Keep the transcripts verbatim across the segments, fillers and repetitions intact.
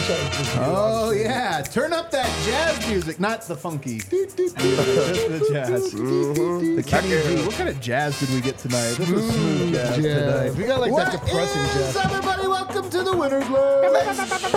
Oh, yeah. Turn up that jazz music. Not the funky. Just the jazz. Mm-hmm. The Kenny G. What kind of jazz did we get tonight? This was smooth jazz jazz. tonight. We got like What that depressing is, jazz. everybody? Welcome to the Winners Lounge.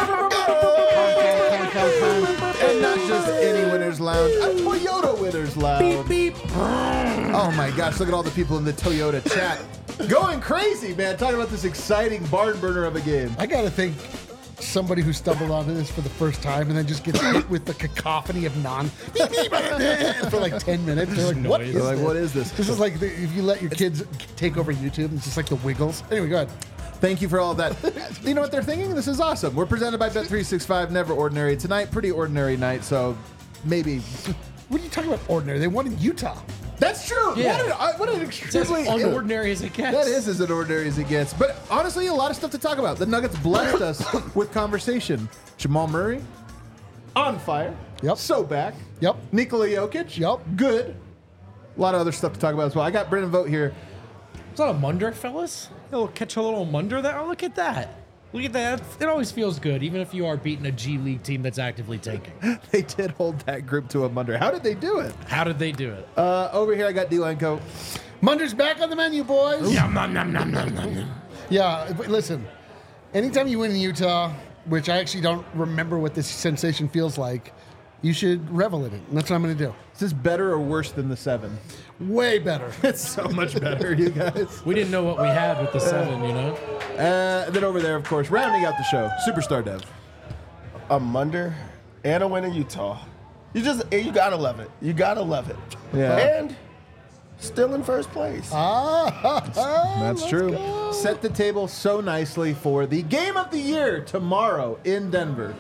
And not just any Winners Lounge, a Toyota Winners Lounge. Beep, beep. Oh, my gosh. Look at all the people in the Toyota chat. Going crazy, man. Talking about this exciting barn burner of a game. I gotta think somebody who stumbled onto this for the first time and then just gets hit with the cacophony of non for like ten minutes. They're like, what is They're like, this? what is this? This is like the, if you let your kids take over YouTube, it's just like the Wiggles. Anyway, go ahead. Thank you for all of that. You know what they're thinking? This is awesome. We're presented by Bet three sixty-five, never ordinary. Tonight, pretty ordinary night, so maybe. What are you talking about ordinary? They won in Utah. That's true. Yeah. What, an, uh, what an It's as extremely unordinary as it gets. That is as ordinary as it gets. But honestly, a lot of stuff to talk about. The Nuggets blessed us with conversation. Jamal Murray, on fire. Yep. So back. Yep. Nikola Jokic. Yep. Good. A lot of other stuff to talk about as well. I got Brendan Vogt here. Is that a munder, fellas? You'll catch a little munder there. Oh, look at that. Look at that. It always feels good, even if you are beating a G League team that's actively tanking. They did hold that group to a munder. How did they do it? How did they do it? Uh, over here, I got D-Line Co. Munder's back on the menu, boys. Yum, nom, nom, nom, nom, nom, nom. Yeah, but listen, anytime you win in Utah, which I actually don't remember what this sensation feels like, you should revel in it. And that's what I'm going to do. Is this better or worse than the seven? Way better. It's so much better, you guys. We didn't know what we had with the seven, you know? Uh, then over there, of course, rounding out the show, Superstar Dev. A Munder and a win in Utah. You just you gotta love it. You gotta love it. Yeah. And still in first place. Ah, That's true. Set the table so nicely for the game of the year tomorrow in Denver.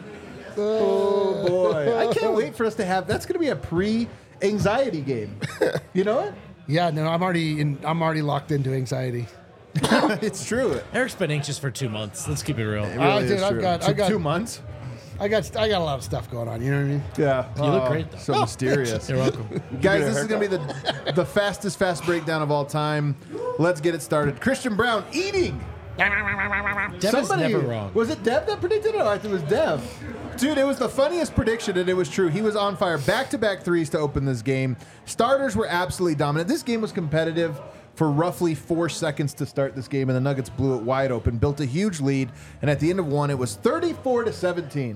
Oh boy. I can't wait for us to have that's gonna be a pre-anxiety game. You know it? Yeah, no, I'm already in. I'm already locked into anxiety. It's true. Eric's been anxious for two months. Let's keep it real. It Ah, really dude, is I've true. got- Two- I've got- two months. I got. I got a lot of stuff going on. You know what I mean? Yeah. You look Oh, great, though. So mysterious. You're welcome. Guys, this is going to be the the fastest fast breakdown of all time. Let's get it started. Christian Brown eating. Dev is never wrong. Was it Dev that predicted it? Oh, I think it was Dev. Dude, it was the funniest prediction, and it was true. He was on fire. Back-to-back threes to open this game. Starters were absolutely dominant. This game was competitive for roughly four seconds to start this game, and the Nuggets blew it wide open, built a huge lead, and at the end of one, it was thirty-four to seventeen.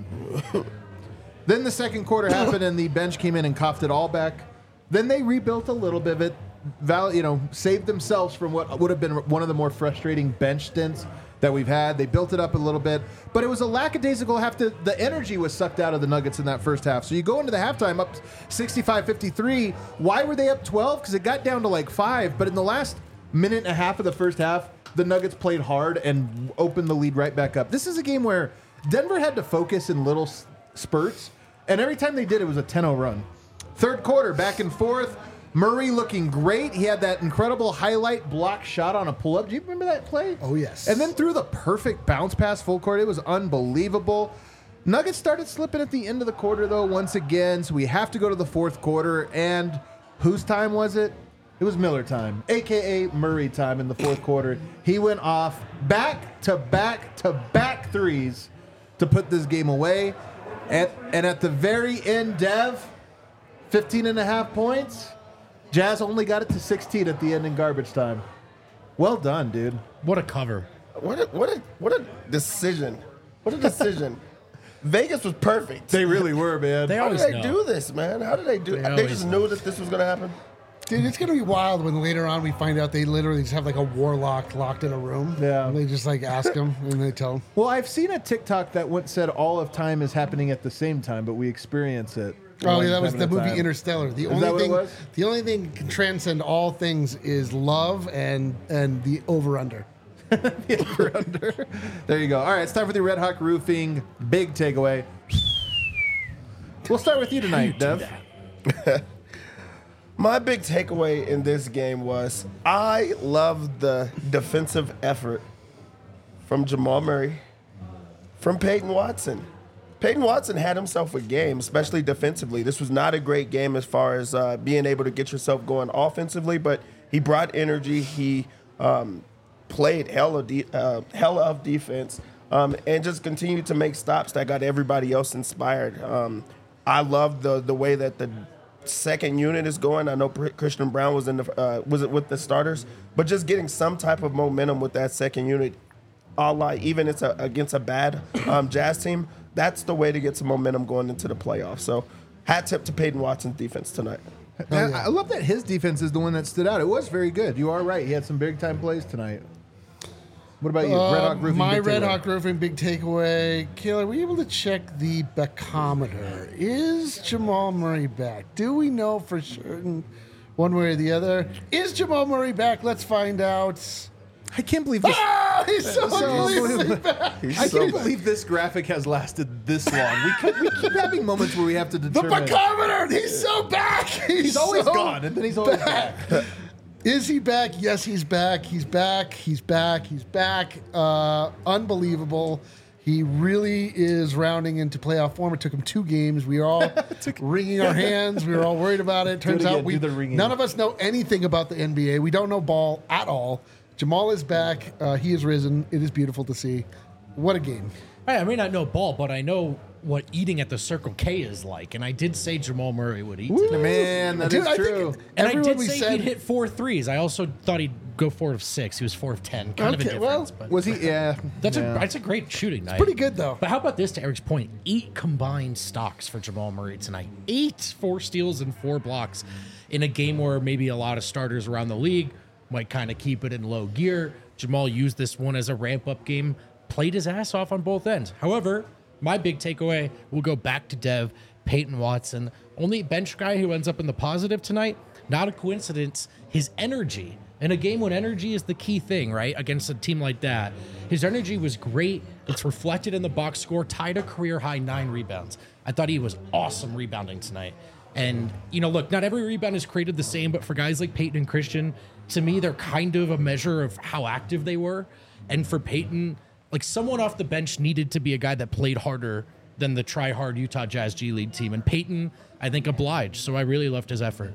Then the second quarter happened, and the bench came in and coughed it all back. Then they rebuilt a little bit of it, val- you know, saved themselves from what would have been one of the more frustrating bench stints that we've had. They built it up a little bit, but it was a lackadaisical half. To, the energy was sucked out of the Nuggets in that first half. So you go into the halftime up sixty-five fifty-three. Why were they up twelve? Because it got down to like five. But in the last minute and a half of the first half, the Nuggets played hard and opened the lead right back up. This is a game where Denver had to focus in little s- spurts, and every time they did, it was a ten oh run. Third quarter, back and forth. Murray looking great. He had that incredible highlight block shot on a pull-up. Do you remember that play? Oh, yes. And then threw the perfect bounce pass full court. It was unbelievable. Nuggets started slipping at the end of the quarter, though, once again. So we have to go to the fourth quarter. And whose time was it? It was Miller time, a k a. Murray time in the fourth quarter. He went off back-to-back-to-back threes to put this game away. And, and at the very end, Dev, fifteen and a half points. Jazz only got it to sixteen at the end in garbage time. Well done, dude. What a cover. What a, what a what a decision. What a decision. Vegas was perfect. They really were, man. They How did always they know. do this, man? How did they do They it? They, always just know. knew that this was going to happen. Dude, it's gonna be wild when later on we find out they literally just have like a warlock locked in a room. Yeah. And they just like ask him and they tell him. Well, I've seen a TikTok that once said all of time is happening at the same time, but we experience it. Oh, one yeah, that was time the at a movie time. Interstellar. The Is only that what it thing, was? the only thing that can transcend all things is love and and the over under. Over under. There you go. All right, it's time for the Red Hawk Roofing big takeaway. We'll start with you tonight, Dev. My big takeaway in this game was I love the defensive effort from Jamal Murray, from Peyton Watson. Peyton Watson had himself a game, especially defensively. This was not a great game as far as uh, being able to get yourself going offensively, but he brought energy. He um, played hell of, de- uh, hell of defense. um, and just continue to make stops that got everybody else inspired. Um, I love the the way that the second unit is going. I know Christian Braun was in the uh, was it with the starters, but just getting some type of momentum with that second unit, all like even it's a, against a bad um, Jazz team. That's the way to get some momentum going into the playoffs. So, hat tip to Peyton Watson's defense tonight. I, I love that his defense is the one that stood out. It was very good. You are right. He had some big time plays tonight. What about you? Uh, Red Hawk Roofing. My big Red takeaway. Hawk Roofing big takeaway. Kayla, were you able to check the barometer? Is Jamal Murray back? Do we know for certain, one way or the other? Is Jamal Murray back? Let's find out. I can't believe this. Ah, he's so, so unbelievably back. He's I so can't bad. believe this graphic has lasted this long. We keep, we keep having moments where we have to The determine. barometer. He's so back. He's, He's always so gone, and then he's always back. Is he back? Yes, he's back. He's back. He's back. He's back. Uh, unbelievable. He really is rounding into playoff form. It took him two games. We were all wringing our hands. We were all worried about it. Turns again. out we Do the wringing. none of us know anything about the N B A. We don't know ball at all. Jamal is back. Uh, he has risen. It is beautiful to see. What a game. I may not know ball, but I know what eating at the Circle K is like. And I did say Jamal Murray would eat tonight. Man, that is Dude, I think true. And I everyone did we say said- he'd hit four threes. I also thought he'd go four of six. He was four of ten. Kind of a Okay, difference. well, but Was he? Yeah. that's yeah. a that's a great shooting night. Pretty good, though. But how about this, to Eric's point? Eight combined stocks for Jamal Murray tonight. Eight, four steals and four blocks in a game where maybe a lot of starters around the league might kind of keep it in low gear. Jamal used this one as a ramp-up game, played his ass off on both ends. However, my big takeaway will go back to Dev, Peyton Watson, only bench guy who ends up in the positive tonight. Not a coincidence. His energy in a game when energy is the key thing, right? Against a team like that, his energy was great. It's reflected in the box score, tied a career high nine rebounds. I thought he was awesome rebounding tonight. And, you know, look, not every rebound is created the same, but for guys like Peyton and Christian, to me, they're kind of a measure of how active they were. And for Peyton, like someone off the bench needed to be a guy that played harder than the try-hard Utah Jazz G League team. And Peyton, I think, obliged. So I really loved his effort.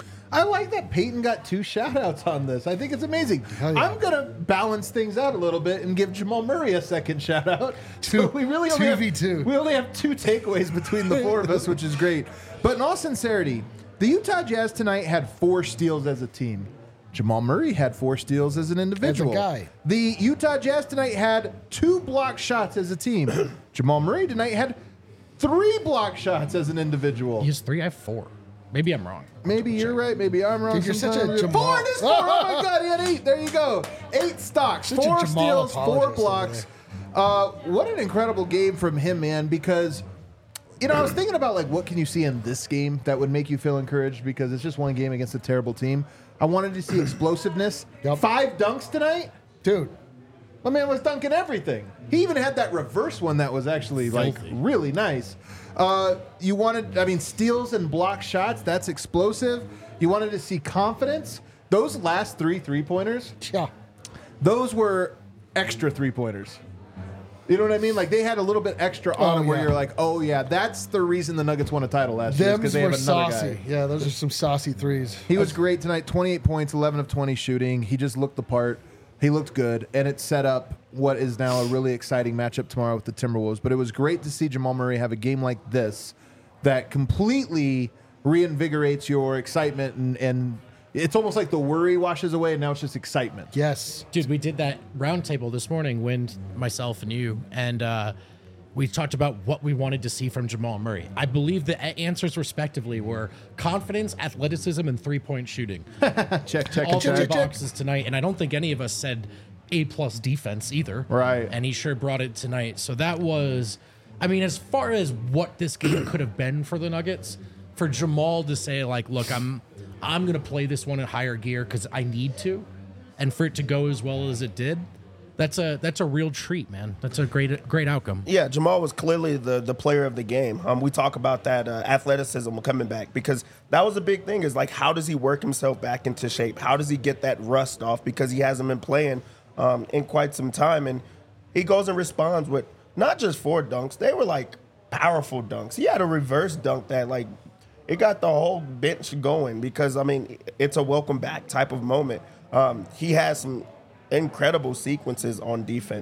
I like that Peyton got two shout-outs on this. I think it's amazing. yeah. I'm going to balance things out a little bit and give Jamal Murray a second shout-out. Two- So we really only two have, v two. We only have two takeaways between the four of us, which is great. But in all sincerity, the Utah Jazz tonight had four steals as a team. Jamal Murray had four steals as an individual. guy. The Utah Jazz tonight had two block shots as a team. Jamal Murray tonight had three block shots as an individual. He has three, I have four. Maybe I'm wrong. Maybe you're right. Maybe I'm wrong. Dude, you're such a sometimes. Jamal- Four. It is four. Oh my God, he had eight. There you go. Eight stocks, Such a four Jamal steals, four apologist blocks. Uh, what an incredible game from him, man. Because you know, I was thinking about like what can you see in this game that would make you feel encouraged because it's just one game against a terrible team. I wanted to see explosiveness. Yep. Five dunks tonight. Dude, My man was dunking everything. He even had that reverse one that was actually like Filthy. really nice. Uh, you wanted, I mean, steals and block shots. That's explosive. You wanted to see confidence. Those last three three pointers, yeah. those were extra three pointers. You know what I mean? Like they had a little bit extra on Oh, them where yeah. you're like, oh yeah, that's the reason the Nuggets won a title last year Them's because they were have another saucy. guy. Yeah, those are some saucy threes. He was great tonight. twenty-eight points, eleven of twenty shooting. He just looked the part. He looked good, and it set up what is now a really exciting matchup tomorrow with the Timberwolves. But it was great to see Jamal Murray have a game like this that completely reinvigorates your excitement, and, and it's almost like the worry washes away, and now it's just excitement. Yes. Dude, we did that roundtable this morning, Wind, myself, and you, and uh, we talked about what we wanted to see from Jamal Murray. I believe the a- answers respectively were confidence, athleticism, and three-point shooting. check, check, All and three check. boxes tonight, and I don't think any of us said A-plus defense either. Right. And he sure brought it tonight. So that was, I mean, as far as what this game could have been for the Nuggets, for Jamal to say, like, look, I'm I'm going to play this one in higher gear because I need to, and for it to go as well as it did, that's a that's a real treat, man. That's a great great outcome. Yeah, Jamal was clearly the, the player of the game. Um, we talk about that uh, athleticism coming back because that was a big thing is like how does he work himself back into shape? How does he get that rust off because he hasn't been playing um, in quite some time? And he goes and responds with not just four dunks. They were like powerful dunks. He had a reverse dunk that like it got the whole bench going because, I mean, it's a welcome back type of moment. Um, he has some incredible sequences on defense.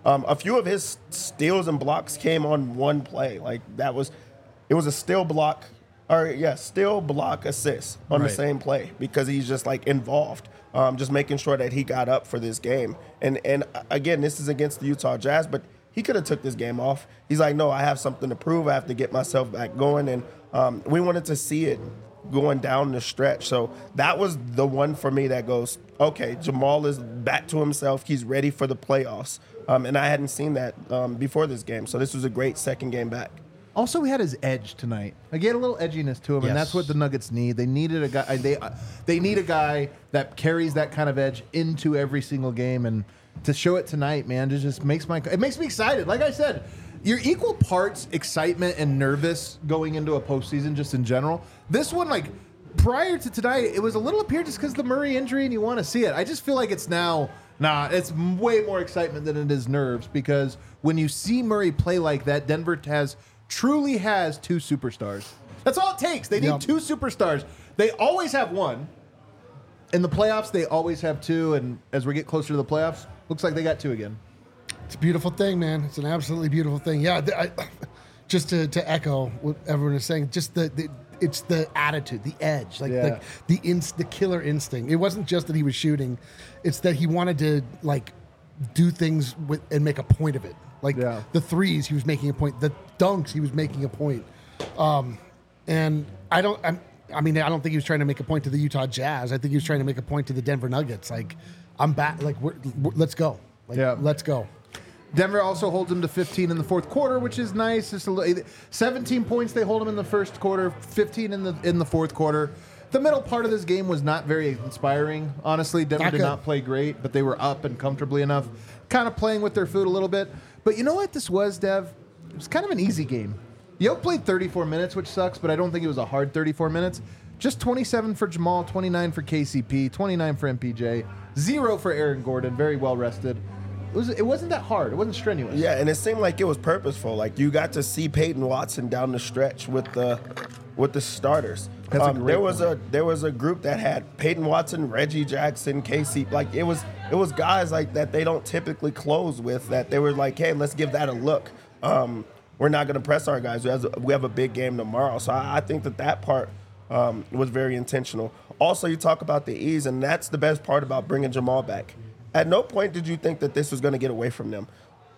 Um, a few of his steals and blocks came on one play. Like that was, it was a steal block, or yeah, steal block assist on Right. the same play because he's just like involved, um, just making sure that he got up for this game. And and uh, again, this is against the Utah Jazz, but he could have took this game off. He's like, no, I have something to prove. I have to get myself back going, and um, we wanted to see it going down the stretch. So that was the one for me that goes, okay, Jamal is back to himself. He's ready for the playoffs. Um, and I hadn't seen that um, before this game. So this was a great second game back. Also, he had his edge tonight. Like, he had a little edginess to him, Yes. and that's what the Nuggets need. They needed a guy. They uh, they need a guy that carries that kind of edge into every single game, and to show it tonight, man, it just makes my it makes me excited. Like I said, you're equal parts excitement and nervous going into a postseason, just in general. This one, like prior to tonight, it was a little up here just because the Murray injury, and you want to see it. I just feel like it's now. Nah, it's way more excitement than it is nerves, because when you see Murray play like that, Denver has truly has two superstars. That's all it takes. They need Yep. two superstars. They always have one. In the playoffs, they always have two, and as we get closer to the playoffs, looks like they got two again. It's a beautiful thing, man. It's an absolutely beautiful thing. Yeah, th- I, just to, to echo what everyone is saying, just the, the it's the attitude, the edge, like Yeah. the the, inst, the killer instinct. It wasn't just that he was shooting; it's that he wanted to like do things with and make a point of it. Like Yeah. the threes, he was making a point. The dunks, he was making a point. Um, and I don't. I'm, I mean, I don't think he was trying to make a point to the Utah Jazz. I think he was trying to make a point to the Denver Nuggets. Like, I'm back. Like, we're, we're, let's go. Like, Yeah. let's go. Denver also holds them to fifteen in the fourth quarter, which is nice. Just a little, seventeen points they hold them in the first quarter, fifteen in the in the fourth quarter. The middle part of this game was not very inspiring, honestly. Denver Not did good. not play great, but they were up and comfortably enough, kind of playing with their food a little bit. But you know what this was, Dev? It was kind of an easy game. Yoke played thirty-four minutes, which sucks, but I don't think it was a hard thirty-four minutes. Just twenty-seven for Jamal, twenty-nine for K C P, twenty-nine for M P J, zero for Aaron Gordon, very well rested. It, was, it wasn't that hard. It wasn't strenuous. Yeah, and it seemed like it was purposeful. Like you got to see Peyton Watson down the stretch with the with the starters. That's a Um, great there was point. a there was a group that had Peyton Watson, Reggie Jackson, K C. Like it was it was guys like that they don't typically close with. That they were like, hey, let's give that a look. Um, we're not going to press our guys. We have, a, we have a big game tomorrow. So I, I think that that part um, was very intentional. Also, you talk about the ease, and that's the best part about bringing Jamal back. At no point did you think that this was going to get away from them.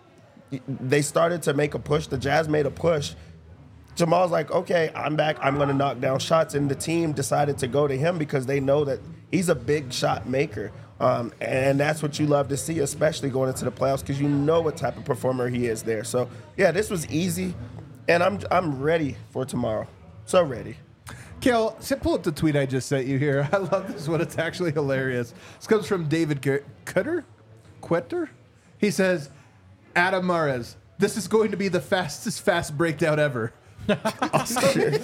They started to make a push. The Jazz made a push. Jamal's like, okay, I'm back. I'm going to knock down shots. And the team decided to go to him because they know that he's a big shot maker. Um, and that's what you love to see, especially going into the playoffs, because you know what type of performer he is there. So, yeah, this was easy. And I'm I'm ready for tomorrow. So ready. Kel, sit- pull up the tweet I just sent you here. I love this one. It's actually hilarious. This comes from David G- Cutter? Quetter? He says, Adam Mares, this is going to be the fastest fast breakdown ever. Awesome.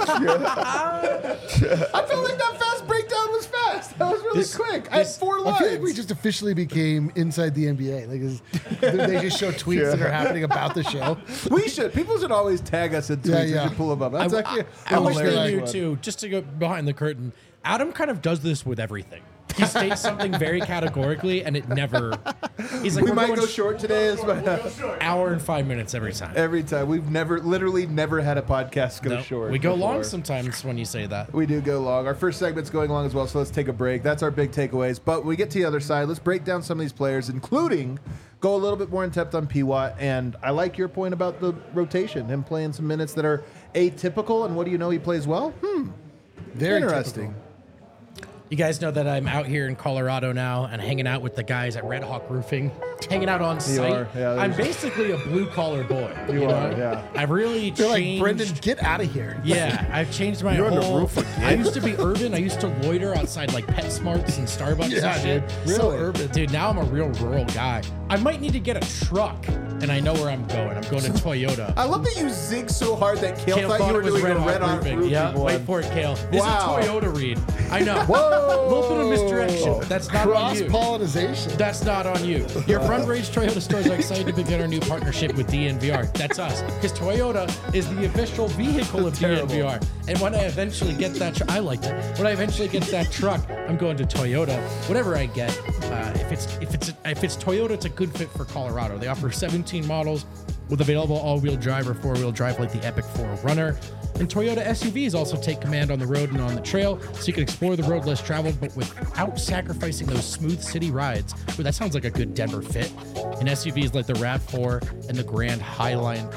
I felt like that fast breakdown was fast. That was really This- quick. I had this- four I lines. feel like we just officially became inside the N B A. Like, it's- they just show tweets that are happening about the show. We should. People should always tag us in tweets. Yeah, We yeah. should pull them up. That's I, actually I, I a wish they hilarious knew one. too. Just to go behind the curtain, Adam kind of does this with everything. He states something very categorically, and it never. He's like, We we're might going go sh- short today. Is my, hour and five minutes every time. every time. We've never, literally never had a podcast go No, short. we go before. long sometimes when you say that. We do go long. Our first segment's going long as well, so let's take a break. That's our big takeaways. But when we get to the other side, let's break down some of these players, including go a little bit more in depth on P W A T. And I like your point about the rotation, him playing some minutes that are atypical. And what do you know? He plays well. Hmm. Very Interesting. typical. You guys know that I'm out here in Colorado now and hanging out with the guys at Red Hawk Roofing, hanging out on site. are, yeah, I'm there's- basically a blue collar boy. You know? are, yeah. I've really They're like, changed. Brendan, get out of here. Yeah, I've changed my You're on the whole. roof again. I used to be urban. I used to loiter outside like PetSmarts and Starbucks Yeah, and shit. dude. So urban. Dude, now I'm a real rural guy. I might need to get a truck, and I know where I'm going. I'm going to Toyota. I love that you zig so hard that Kale, Kale thought, thought you were it was doing Red a Hawk red hot Roofing. roofing Yeah, one. wait for it, Kale. This Wow. is a Toyota read. I know. Whoa. A little bit of misdirection. That's not on Cross you. pollination. That's not on you. Your Front Range Toyota stores are excited to begin our new partnership with D N V R. That's us. Because Toyota is the official vehicle of D N V R. And when I eventually get that truck, I like it. When I eventually get that truck, I'm going to Toyota. Whatever I get, Uh, if it's if it's if it's Toyota, it's a good fit for Colorado. They offer seventeen models with available all-wheel drive or four-wheel drive, like the Epic four Runner. And Toyota S U Vs also take command on the road and on the trail, so you can explore the road less traveled, but without sacrificing those smooth city rides. Ooh, that sounds like a good Denver fit. And S U Vs like the RAV four and the Grand Highline,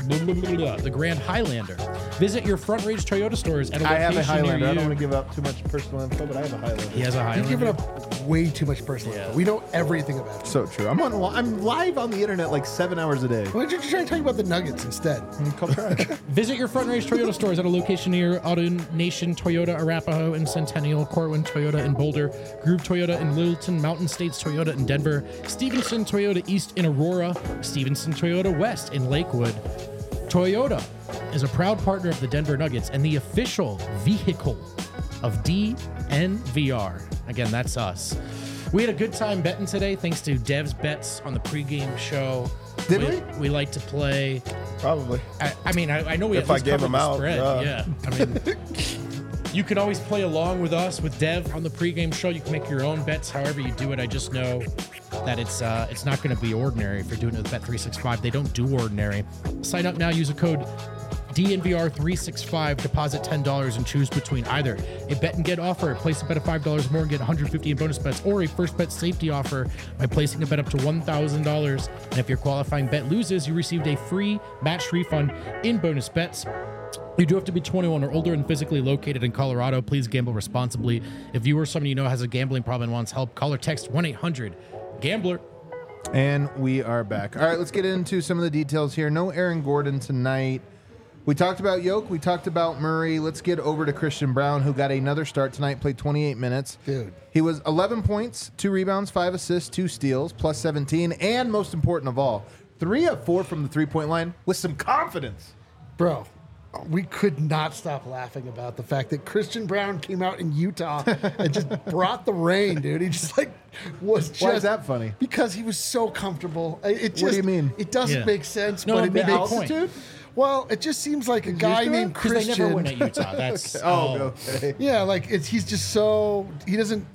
the Grand Highlander. Visit your Front Range Toyota stores at a I location have a Highlander. near I you. don't want to give up too much personal info, but I have a Highlander. He has a You're Highlander. giving up way too much personal info. We know everything about you. So true. I'm on. I'm live on the internet like seven hours a day. Why don't you try to talk about the Nuggets instead? Come try. Visit your Front Range Toyota stores at a location near Auto Nation Toyota Arapahoe and Centennial, Corwin Toyota in Boulder, Groove Toyota in Littleton, Mountain States Toyota in Denver, Stevenson Toyota East in Aurora, Stevenson Toyota West in Lakewood. Toyota is a proud partner of the Denver Nuggets and the official vehicle of D N V R. Again, that's us. We had a good time betting today thanks to Dev's bets on the pregame show. Did we? we? We like to play. Probably. I, I mean, I, I know we If at I least gave covered them the out, spread. yeah. Yeah. I mean, you can always play along with us with Dev on the pregame show. You can make your own bets, however you do it. I just know that it's uh, it's not going to be ordinary if you're doing it with Bet three sixty-five. They don't do ordinary. Sign up now. Use a code D N V R three sixty-five. Deposit ten dollars and choose between either a bet and get offer. Place a bet of five dollars more and get one hundred fifty dollars in bonus bets, or a first bet safety offer by placing a bet up to one thousand dollars. And if your qualifying bet loses, you received a free match refund in bonus bets. You do have to be twenty-one or older and physically located in Colorado. Please gamble responsibly. If you or someone you know has a gambling problem and wants help, call or text one eight hundred gambler. And we are back. All right, let's get into some of the details here. No Aaron Gordon tonight. We talked about Yoke. We talked about Murray. Let's get over to Christian Brown, who got another start tonight, played twenty-eight minutes. Dude. He was eleven points, two rebounds, five assists, two steals, plus seventeen, and most important of all, three of four from the three-point line with some confidence. Bro, we could not stop laughing about the fact that Christian Brown came out in Utah and just brought the rain, dude. He just like was just. Why is that funny? Because he was so comfortable. It it just, What do you mean? It doesn't Yeah. make sense, No, but it big makes point. Altitude? Well, it just seems like a guy used to it? named Because they Christian. never win at Utah. That's Oh, okay. Yeah, like it's he's just so he doesn't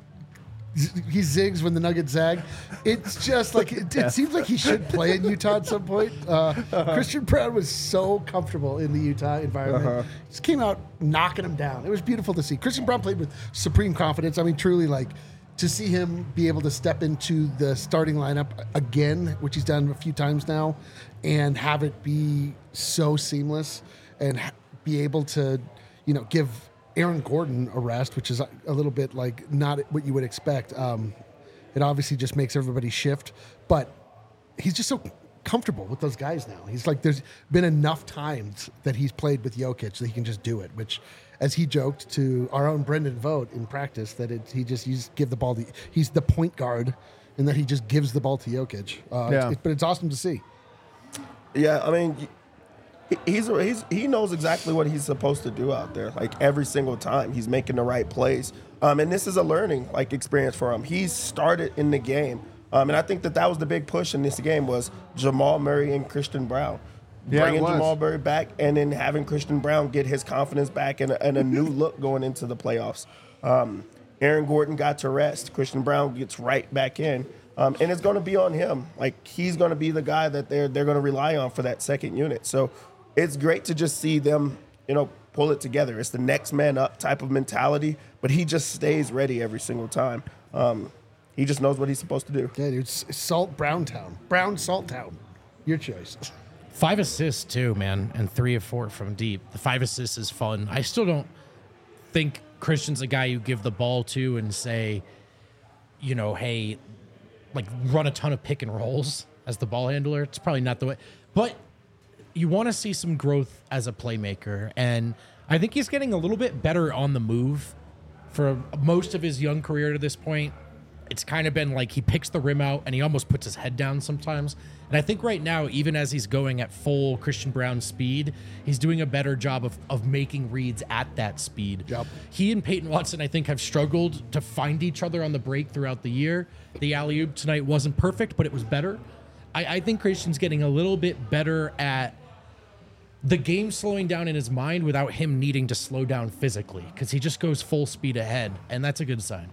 he zigs when the Nuggets zag. It's just like it, it seems like he should play in Utah at some point. Uh, Christian Brown was so comfortable in the Utah environment. Uh-huh. Just came out knocking him down. It was beautiful to see. Christian Brown played with supreme confidence. I mean, truly, like to see him be able to step into the starting lineup again, which he's done a few times now, and have it be so seamless and ha- be able to, you know, give Aaron Gordon a rest, which is a, a little bit like not what you would expect. Um, it obviously just makes everybody shift, but he's just so comfortable with those guys now. He's like, there's been enough times that he's played with Jokic that he can just do it, which, as he joked to our own Brendan Vogt in practice, that it, he just, you just give the ball to, he's the point guard and that he just gives the ball to Jokic. Uh, Yeah. it's, but it's awesome to see. Yeah, I mean, he- he's he's he knows exactly what he's supposed to do out there. Like every single time, he's making the right plays. Um, and this is a learning like experience for him. He's started in the game, um, and I think that that was the big push in this game was Jamal Murray and Christian Brown. Yeah, it Bringing was. Jamal Murray back and then having Christian Brown get his confidence back and a, and a new look going into the playoffs. Um, Aaron Gordon got to rest. Christian Brown gets right back in. Um, and it's going to be on him. Like, he's going to be the guy that they're they're going to rely on for that second unit. So it's great to just see them, you know, pull it together. It's the next man up type of mentality, but he just stays ready every single time. Um, he just knows what he's supposed to do. Yeah, dude, S- Salt Brown Town. Brown Salt Town. Your choice. Five assists too, man, and three of four from deep. The five assists is fun. I still don't think Christian's a guy you give the ball to and say, you know, hey, like run a ton of pick and rolls as the ball handler. It's probably not the way, but you want to see some growth as a playmaker, and I think he's getting a little bit better on the move. For most of his young career to this point, it's kind of been like he picks the rim out and he almost puts his head down sometimes. And I think right now, even as he's going at full Christian Brown speed, he's doing a better job of, of making reads at that speed. Yep. He and Peyton Watson, I think, have struggled to find each other on the break throughout the year. The alley-oop tonight wasn't perfect, but it was better. I, I think Christian's getting a little bit better at the game slowing down in his mind without him needing to slow down physically, because he just goes full speed ahead, and that's a good sign.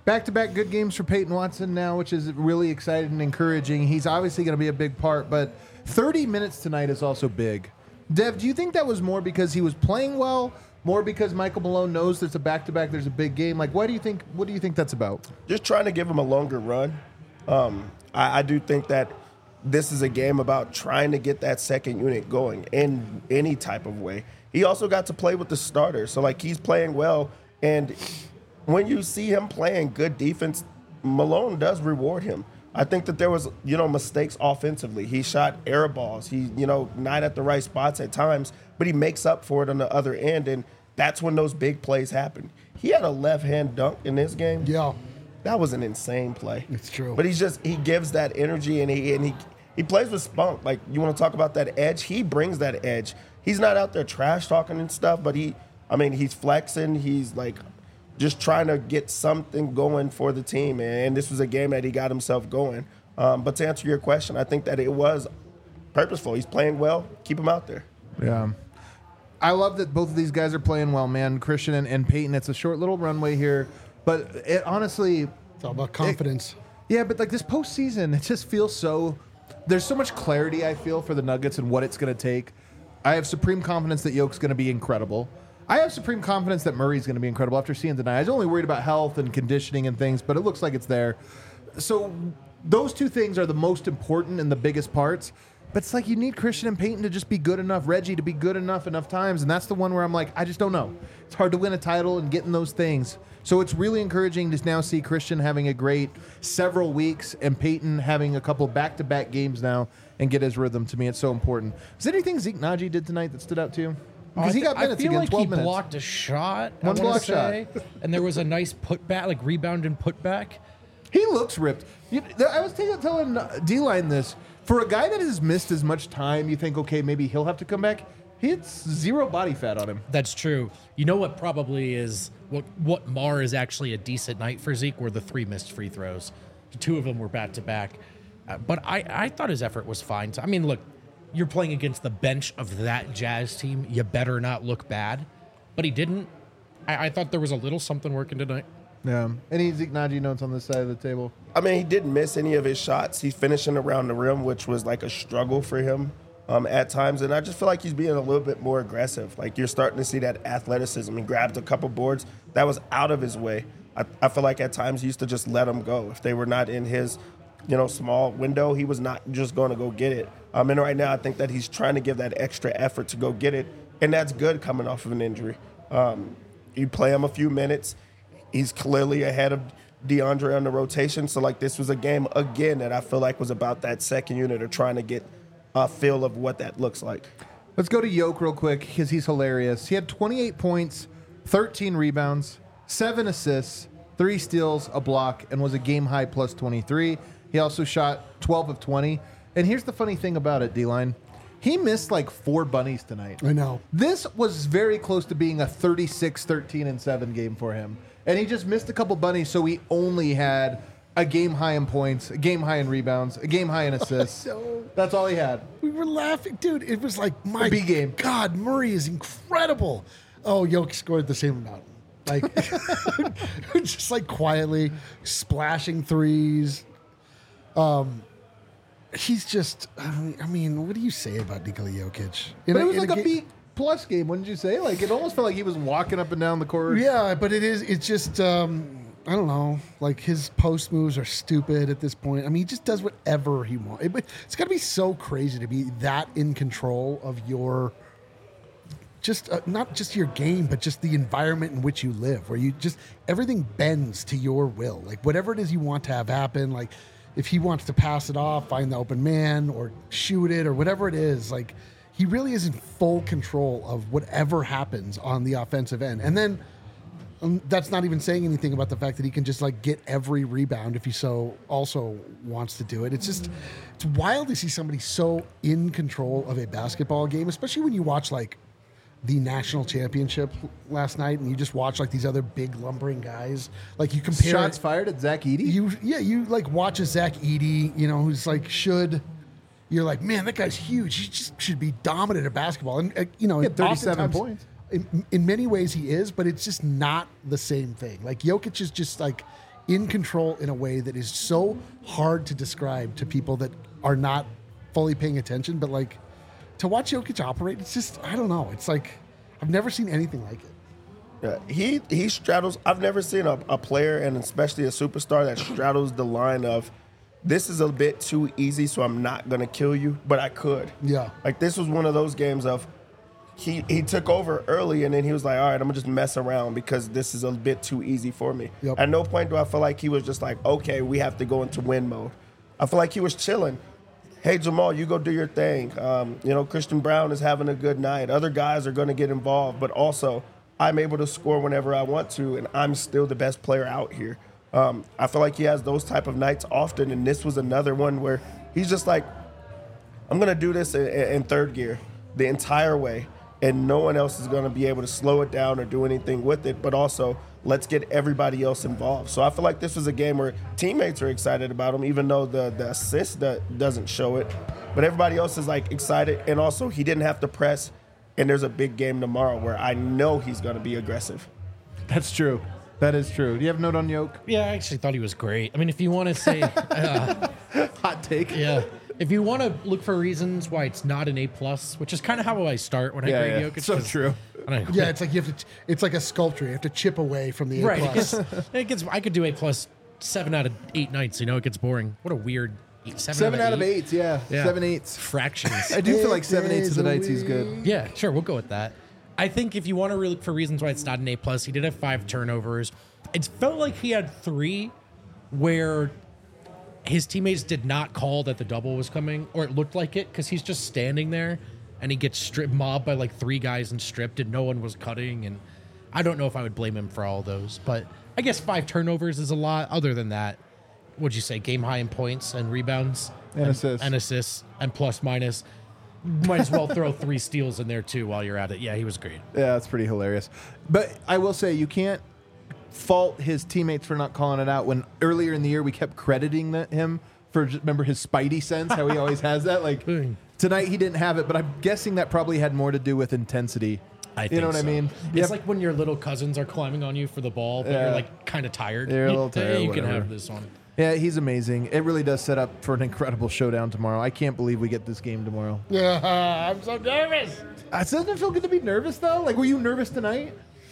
Back-to-back good games for Peyton Watson now, which is really exciting and encouraging. He's obviously going to be a big part, but thirty minutes tonight is also big. Dev, do you think that was more because he was playing well, more because Michael Malone knows there's a back-to-back, there's a big game? Like, why do you think? What do you think that's about? Just trying to give him a longer run. Um, I, I do think that this is a game about trying to get that second unit going in any type of way. He also got to play with the starters, so like he's playing well, and when you see him playing good defense, Malone does reward him. I think that there was, you know, mistakes offensively. He shot air balls. He, you know, not at the right spots at times, but he makes up for it on the other end, and that's when those big plays happen. He had a left-hand dunk in this game. Yeah. That was an insane play. It's true. But he's just, he gives that energy, and he and he he plays with spunk. Like, you want to talk about that edge? He brings that edge. He's not out there trash talking and stuff, but he, I mean, he's flexing. He's like just trying to get something going for the team, and this was a game that he got himself going. Um, but to answer your question, I think that it was purposeful. He's playing well. Keep him out there. Yeah. I love that both of these guys are playing well, man. Christian and, and Peyton. It's a short little runway here, but it honestly, It's all about confidence. It, yeah, but like this postseason, it just feels so. There's so much clarity I feel for the Nuggets and what it's going to take. I have supreme confidence that Yoke's going to be incredible. I have supreme confidence that Murray's going to be incredible after seeing tonight. I was only worried about health and conditioning and things, but it looks like it's there. So those two things are the most important and the biggest parts. But it's like you need Christian and Peyton to just be good enough, Reggie to be good enough enough times, and that's the one where I'm like, I just don't know. It's hard to win a title and getting those things. So it's really encouraging to now see Christian having a great several weeks and Peyton having a couple back-to-back games now and get his rhythm. To me, it's so important. Is there anything Zeke Naji did tonight that stood out to you? Because he got minutes I feel again, like twelve he minutes. blocked a shot. I One wanna block shot. say, and there was a nice putback, like rebound and putback. He looks ripped. You, I was telling, telling D-Line this. For a guy that has missed as much time, you think, okay, maybe he'll have to come back. He had zero body fat on him. That's true. You know what probably is what what Mar is actually a decent night for Zeke were the three missed free throws. Two of them were back to back, uh, but I I thought his effort was fine. I mean, look, you're playing against the bench of that Jazz team. You better not look bad, but he didn't. I, I thought there was a little something working tonight. Yeah. Any Zeke Naji notes on this side of the table? I mean, he didn't miss any of his shots. He's finishing around the rim, which was like a struggle for him um, at times. And I just feel like he's being a little bit more aggressive. Like you're starting to see that athleticism. He grabbed a couple boards that was out of his way. I, I feel like at times he used to just let them go. If they were not in his, you know, small window, he was not just going to go get it. Um, and right now, I think that he's trying to give that extra effort to go get it. And that's good coming off of an injury. Um, you play him a few minutes. He's clearly ahead of DeAndre on the rotation. So, like, this was a game, again, that I feel like was about that second unit or trying to get a feel of what that looks like. Let's go to Yoke real quick because he's hilarious. He had twenty-eight points, thirteen rebounds, seven assists, three steals, a block, and was a game-high plus twenty-three. He also shot twelve of twenty. And here's the funny thing about it, D-Line. He missed like four bunnies tonight. I know. This was very close to being a thirty-six, thirteen, and seven game for him. And he just missed a couple bunnies, so he only had a game high in points, a game high in rebounds, a game high in assists. know. That's all he had. We were laughing, dude. It was like, my B game. God, Murray is incredible. Oh, Yoke scored the same amount. Like, just like quietly splashing threes. Um, he's just. I mean, I mean, what do you say about Nikola Jokic? In But it was in like a ga- B plus game, wouldn't you say? Like, it almost felt like he was walking up and down the court. Yeah, but it is. It's just. Um, I don't know. Like his post moves are stupid at this point. I mean, he just does whatever he wants. It, it's got to be so crazy to be that in control of your. Just uh, not just your game, but just the environment in which you live, where you just everything bends to your will. Like whatever it is you want to have happen. Like if he wants to pass it off, find the open man, or shoot it, or whatever it is. Like he really is in full control of whatever happens on the offensive end, and then. Um, that's not even saying anything about the fact that he can just like get every rebound if he so also wants to do it. It's just it's wild to see somebody so in control of a basketball game, especially when you watch like the national championship last night and you just watch like these other big lumbering guys. Like you compare Shots fired at Zach Edey? You yeah, you like watch a Zach Edey, you know, who's like should you're like, man, that guy's huge. He just should be dominant at basketball. And uh, you know, He had thirty-seven oftentimes- points. In, in many ways he is, but it's just not the same thing. Like Jokic is just like in control in a way that is so hard to describe to people that are not fully paying attention. But like to watch Jokic operate, it's just, I don't know. It's like, I've never seen anything like it. Yeah, he he straddles. I've never seen a, a player, and especially a superstar, that straddles the line of, this is a bit too easy, so I'm not gonna kill you, but I could. Yeah. Like this was one of those games of, he he took over early, and then he was like, all right, I'm gonna just mess around because this is a bit too easy for me. Yep. At no point do I feel like he was just like, okay, we have to go into win mode. I feel like he was chilling. Hey, Jamal, you go do your thing. Um, you know, Christian Brown is having a good night. Other guys are going to get involved, but also I'm able to score whenever I want to, and I'm still the best player out here. Um, I feel like he has those type of nights often, and this was another one where he's just like, I'm going to do this in, in third gear the entire way, and no one else is going to be able to slow it down or do anything with it, but also let's get everybody else involved. So I feel like this was a game where teammates are excited about him, even though the, the assist that doesn't show it. But everybody else is like excited. And also he didn't have to press. And there's a big game tomorrow where I know he's going to be aggressive. That's true. That is true. Do you have a note on Yoke? Yeah, I actually thought he was great. I mean, if you want to say, uh, Hot take. yeah, if you want to look for reasons why it's not an A plus, which is kind of how I start when I Yeah, grade yeah. Jokic. So 'cause true. I don't know. Yeah, it's like you have to. It's like a sculpture. You have to chip away from the A Right. It plus. gets, it gets. I could do A plus seven out of eight nights. You know, it gets boring. What a weird eight, seven, Seven out of eight. Yeah. Yeah. Seven eights. fractions. I do feel like Eight seven eights of the days a nights he's good. Yeah, sure, we'll go with that. I think if you want to really look for reasons why it's not an A plus, he did have five turnovers. It felt like he had three where his teammates did not call that the double was coming, or it looked like it, because he's just standing there and he gets strip mobbed by like three guys and stripped, and no one was cutting. And I don't know if I would blame him for all those, but I guess five turnovers is a lot. Other than that, what'd you say? Game high in points and rebounds And assists. and assists and plus minus. Might as well throw three steals in there too while you're at it. Yeah, he was great. Yeah, that's pretty hilarious. But I will say, you can't fault his teammates for not calling it out when earlier in the year we kept crediting that him for, remember his spidey sense, how he always has that? Like tonight he didn't have it, but I'm guessing that probably had more to do with intensity. I you think know what so. I mean? It's Yep. like when your little cousins are climbing on you for the ball, but Yeah. you're like kind of tired. You're a You- little tired, hey, you can whatever. have this one. Yeah, he's amazing. It really does set up for an incredible showdown tomorrow. I can't believe we get this game tomorrow. Yeah, I'm so nervous. Uh, doesn't it feel good to be nervous though? Like, were you nervous tonight?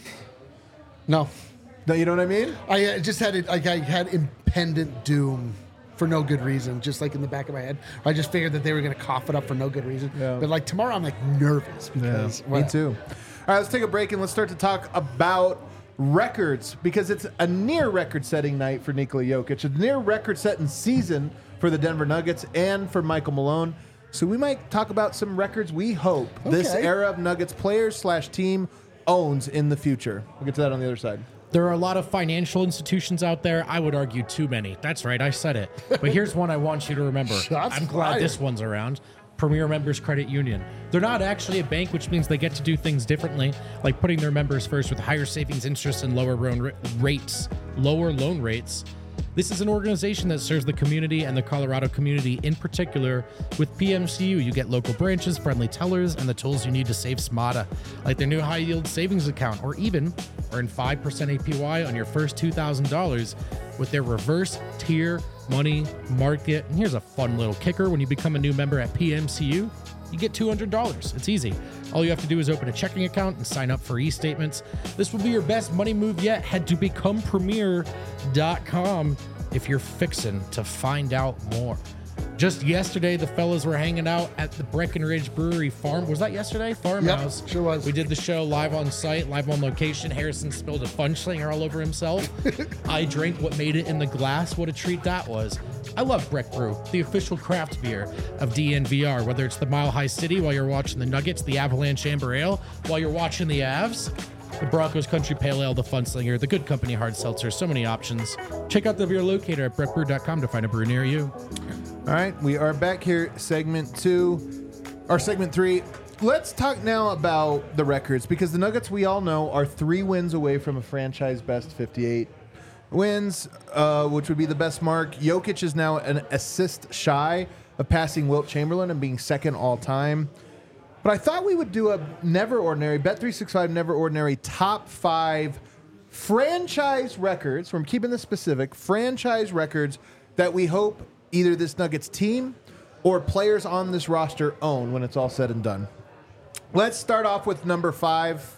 No, No, you know what I mean? I uh, just had it. Like I had impendent doom for no good reason, just like in the back of my head. I just figured that they were going to cough it up for no good reason. Yeah. But like tomorrow, I'm like nervous because Me well, too. All right, let's take a break and let's start to talk about records, because it's a near record-setting night for Nikola Jokic, a near record-setting season for the Denver Nuggets and for Michael Malone. So we might talk about some records we hope this Okay. era of Nuggets players slash team owns in the future. We'll get to that on the other side. There are a lot of financial institutions out there. I would argue too many. That's right, I said it. But here's one I want you to remember. Shots I'm glad fired. this one's around. Premier Members Credit Union. They're not actually a bank, which means they get to do things differently, like putting their members first with higher savings interest and lower loan ra- rates. Lower loan rates. This is an organization that serves the community and the Colorado community in particular. With P M C U, you get local branches, friendly tellers, and the tools you need to save smarter, like their new high-yield savings account, or even earn five percent A P Y on your first two thousand dollars with their reverse tier money market. And here's a fun little kicker. When you become a new member at P M C U, you get two hundred dollars. It's easy. All you have to do is open a checking account and sign up for e-statements. This will be your best money move yet. Head to become premier dot com if you're fixin' to find out more. Just yesterday, the fellas were hanging out at the Breckenridge Brewery Farm. Was that yesterday? Farmhouse. sure was. We did the show live on site, live on location. Harrison spilled a fun slinger all over himself. I drank what made it in the glass. What a treat that was. I love Breck Brew, the official craft beer of D N V R. Whether it's the Mile High City while you're watching the Nuggets, the Avalanche Amber Ale while you're watching the Avs, the Broncos Country Pale Ale, the Fun Slinger, the Good Company Hard Seltzer, so many options. Check out the beer locator at breck brew dot com to find a brew near you. All right, we are back here, segment two, or segment three. Let's talk now about the records, because the Nuggets, we all know, are three wins away from a franchise best fifty-eight wins, uh, which would be the best mark. Jokic is now an assist shy of passing Wilt Chamberlain and being second all time. But I thought we would do a never ordinary, Bet three sixty-five never ordinary top five franchise records, from keeping this specific, franchise records that we hope either this Nuggets team or players on this roster own when it's all said and done. Let's start off with number five.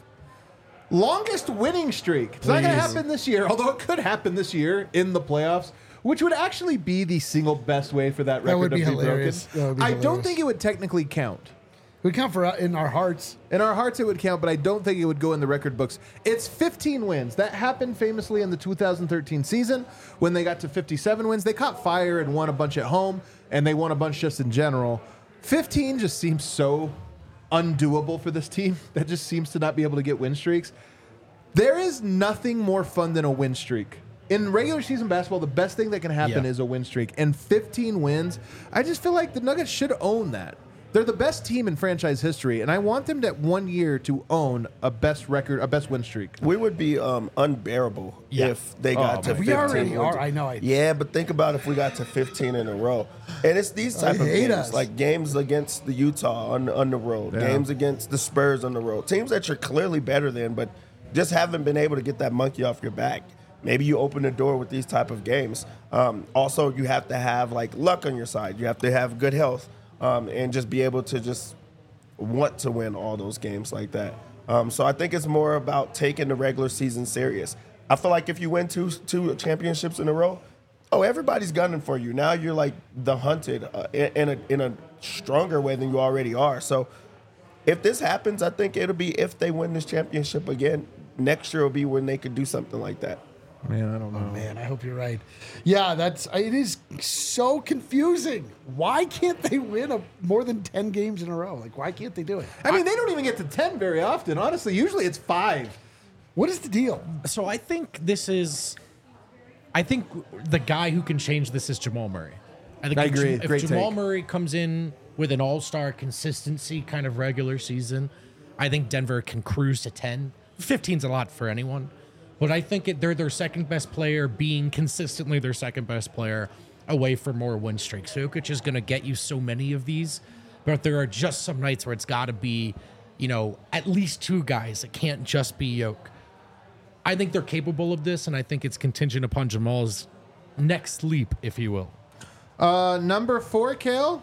Longest winning streak. It's not going to Please. happen this year, although it could happen this year in the playoffs, which would actually be the single best way for that record would to be be hilarious. broken. That would be I don't hilarious. think it would technically count. We count for uh, in our hearts. In our hearts, it would count, but I don't think it would go in the record books. It's fifteen wins. That happened famously in the two thousand thirteen season when they got to fifty-seven wins. They caught fire and won a bunch at home, and they won a bunch just in general. fifteen just seems so undoable for this team. That just seems to not be able to get win streaks. There is nothing more fun than a win streak. In regular season basketball, the best thing that can happen Yeah. is a win streak. And fifteen wins, I just feel like the Nuggets should own that. They're the best team in franchise history, and I want them to one year to own a best record, a best win streak. We would be um, unbearable Yeah. if they got Oh, to man. We fifteen. already wins. are. I know. I, Yeah, but think about if we got to fifteen in a row. And it's these type I of hate games, us. like games against the Utah on, on the road, Yeah. games against the Spurs on the road, teams that you're clearly better than, but just haven't been able to get that monkey off your back. Maybe you open the door with these type of games. Um, also, you have to have like luck on your side. You have to have good health um, and just be able to just want to win all those games like that. Um, so I think it's more about taking the regular season serious. I feel like if you win two two championships in a row, oh, everybody's gunning for you. Now you're like the hunted uh, in, in a in a stronger way than you already are. So if this happens, I think it'll be if they win this championship again. Next year will be when they could do something like that. Man, I don't know. Man, I hope you're right. Yeah, that's it is so confusing. Why can't they win a, more than ten games in a row? Like, why can't they do it? I mean, they don't even get to ten very often. Honestly, usually it's five. What is the deal? So I think this is. I think the guy who can change this is Jamal Murray. I think I if, agree. Jam- if Great Jamal take. Murray comes in with an all-star consistency kind of regular season, I think Denver can cruise to ten. fifteen's a lot for anyone, but I think it, they're their second best player, being consistently their second best player, away for more win streaks. Jokic is going to get you so many of these, but there are just some nights where it's got to be, you know, at least two guys. It can't just be Yoke. I think they're capable of this, and I think it's contingent upon Jamal's next leap, if you will. Uh, number four, Kale.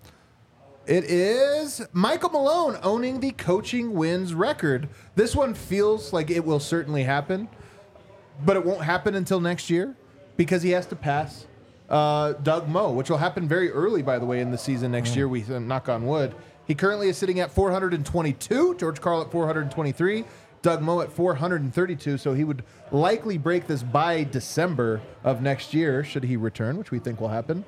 It is Michael Malone owning the coaching wins record. This one feels like it will certainly happen, but it won't happen until next year because he has to pass uh, Doug Moe, which will happen very early, by the way, in the season next year. We uh, knock on wood. He currently is sitting at four hundred twenty-two. George Karl at four hundred twenty-three. Doug Moe at four hundred thirty-two. So he would likely break this by December of next year, should he return, which we think will happen.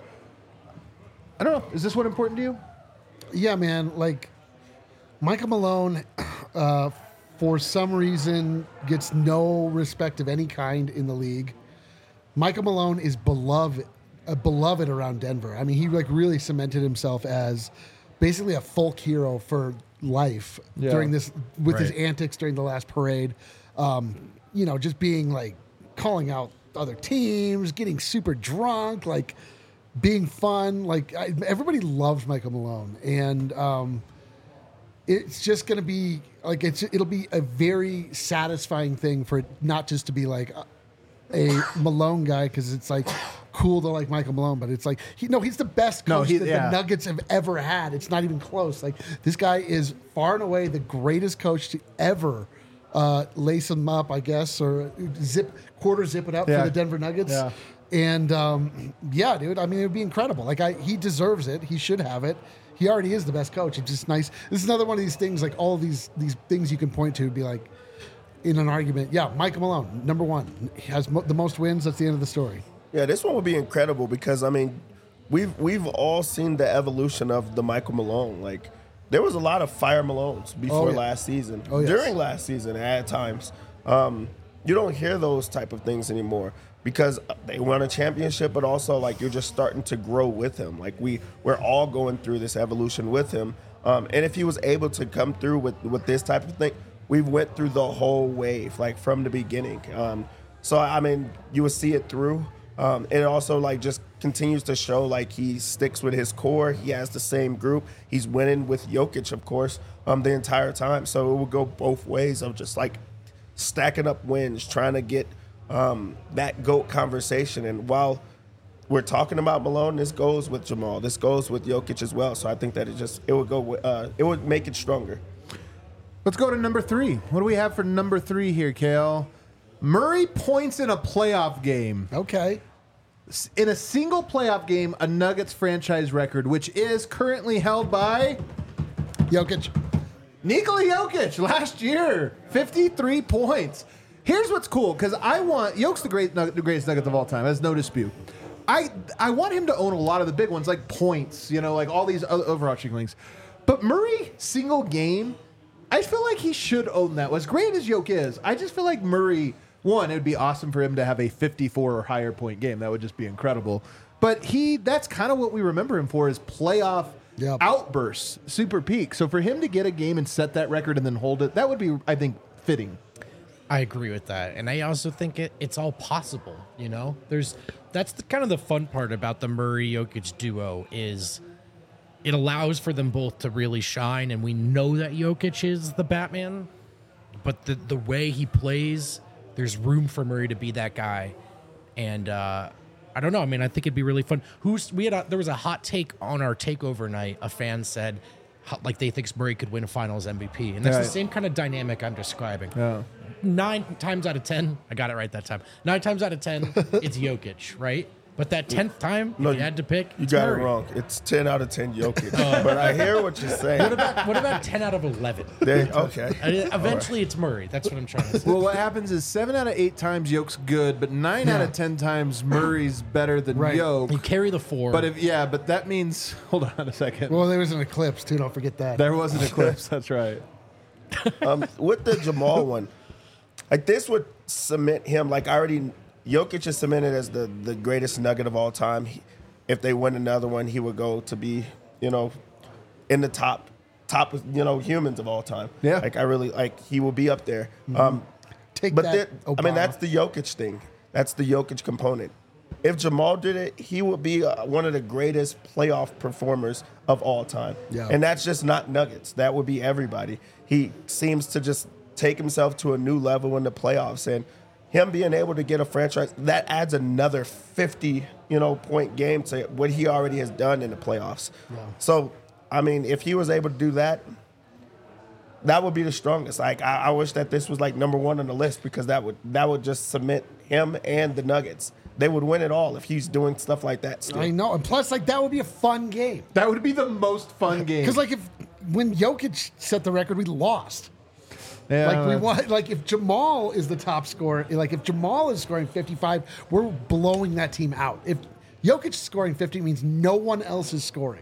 I don't know. Is this one important to you? Yeah, man. Like Michael Malone, uh, for some reason, gets no respect of any kind in the league. Michael Malone is beloved, uh, beloved around Denver. I mean, he like really cemented himself as basically a folk hero for life Yeah. during this with his Right. antics during the last parade. Um, you know, just being like calling out other teams, getting super drunk, like being fun. Like I, everybody loves Michael Malone, and um, it's just going to be like it's it'll be a very satisfying thing for it not just to be like a, a Malone guy, because it's like cool to like Michael Malone, but it's like he no he's the best No, coach he- that yeah. the Nuggets have ever had. It's not even close. Like this guy is far and away the greatest coach to ever uh, lace him up, I guess, or zip quarter zip it up Yeah. for the Denver Nuggets. Yeah. And um, yeah, dude, I mean, it would be incredible. Like, I, he deserves it. He should have it. He already is the best coach. It's just nice. This is another one of these things, like all these these things you can point to, be like, in an argument. Yeah, Michael Malone, number one, he has mo- the most wins. That's the end of the story. Yeah, this one would be incredible because I mean, we've we've all seen the evolution of the Michael Malone. Like, there was a lot of fire Malones before Oh, yeah. last season, Oh, yes. during last season at times. Um, you don't hear those type of things anymore because they won a championship, but also like you're just starting to grow with him. Like we we're all going through this evolution with him. Um, and if he was able to come through with with this type of thing, we went through the whole wave, like from the beginning. Um, so I mean, you would see it through. Um, it also like just continues to show like he sticks with his core. He has the same group. He's winning with Jokic, of course, um, the entire time. So it will go both ways of just like stacking up wins, trying to get um, that GOAT conversation. And while we're talking about Malone, this goes with Jamal. This goes with Jokic as well. So I think that it just it would go with, uh, it would make it stronger. Let's go to number three. What do we have for number three here, Kale? Murray points in a playoff game. Okay. In a single playoff game, a Nuggets franchise record, which is currently held by Jokic. Nikola Jokic last year, fifty-three points. Here's what's cool, because I want Jokic's the great, the greatest Nugget of all time. There's no dispute. I I want him to own a lot of the big ones, like points, you know, like all these other overarching things. But Murray, single game, I feel like he should own that. As great as Jokic is, I just feel like Murray. One, it would be awesome for him to have a fifty-four or higher point game. That would just be incredible. But he, that's kind of what we remember him for, is playoff Yep. outbursts, super peak. So for him to get a game and set that record and then hold it, that would be, I think, fitting. I agree with that, and I also think it, it's all possible. You know, there's that's the kind of the fun part about the Murray Jokic duo is it allows for them both to really shine, and we know that Jokic is the Batman, but the the way he plays, there's room for Murray to be that guy, and uh, I don't know. I mean, I think it'd be really fun. Who's we had? A, there was a hot take on our takeover night. A fan said, how, like they think Murray could win a Finals M V P, and that's Right. the same kind of dynamic I'm describing. Yeah. Nine times out of ten, I got it right that time. Nine times out of ten, it's Jokic, right? But that tenth time, if No, you had to pick, You it's got Murray. it wrong. It's ten out of ten Jokic. But I hear what you're saying. What about what about ten out of eleven? There- okay. I mean, eventually, it's Murray. That's what I'm trying to say. Well, what happens is seven out of eight times Yoke's good, but nine out of ten times Murray's better than Right. Yoke. You carry the four. But if yeah, but that means hold on a second. Well, there was an eclipse too. Don't forget that. There was an eclipse. That's right. Um, with the Jamal one, like this would cement him. Like I already, Jokic is cemented as the, the greatest Nugget of all time. He, if they win another one, he would go to be, you know, in the top, top, you know, humans of all time. Yeah. Like I really like he will be up there. Um, Take but that, then, I mean, Obama. that's the Jokic thing. That's the Jokic component. If Jamal did it, he would be uh, one of the greatest playoff performers of all time. Yeah. And that's just not Nuggets. That would be everybody. He seems to just take himself to a new level in the playoffs, and him being able to get a franchise that adds another fifty, you know, point game to what he already has done in the playoffs. Yeah. So, I mean, if he was able to do that, that would be the strongest. Like I, I wish that this was like number one on the list because that would that would just cement him and the Nuggets. They would win it all if he's doing stuff like that still. I know, and plus, like that would be a fun game. That would be the most fun game. Because like if when Jokic set the record, we lost. yeah, Like we that's- want, like if Jamal is the top scorer, like if Jamal is scoring fifty-five, we're blowing that team out. If Jokic is scoring fifty, means no one else is scoring.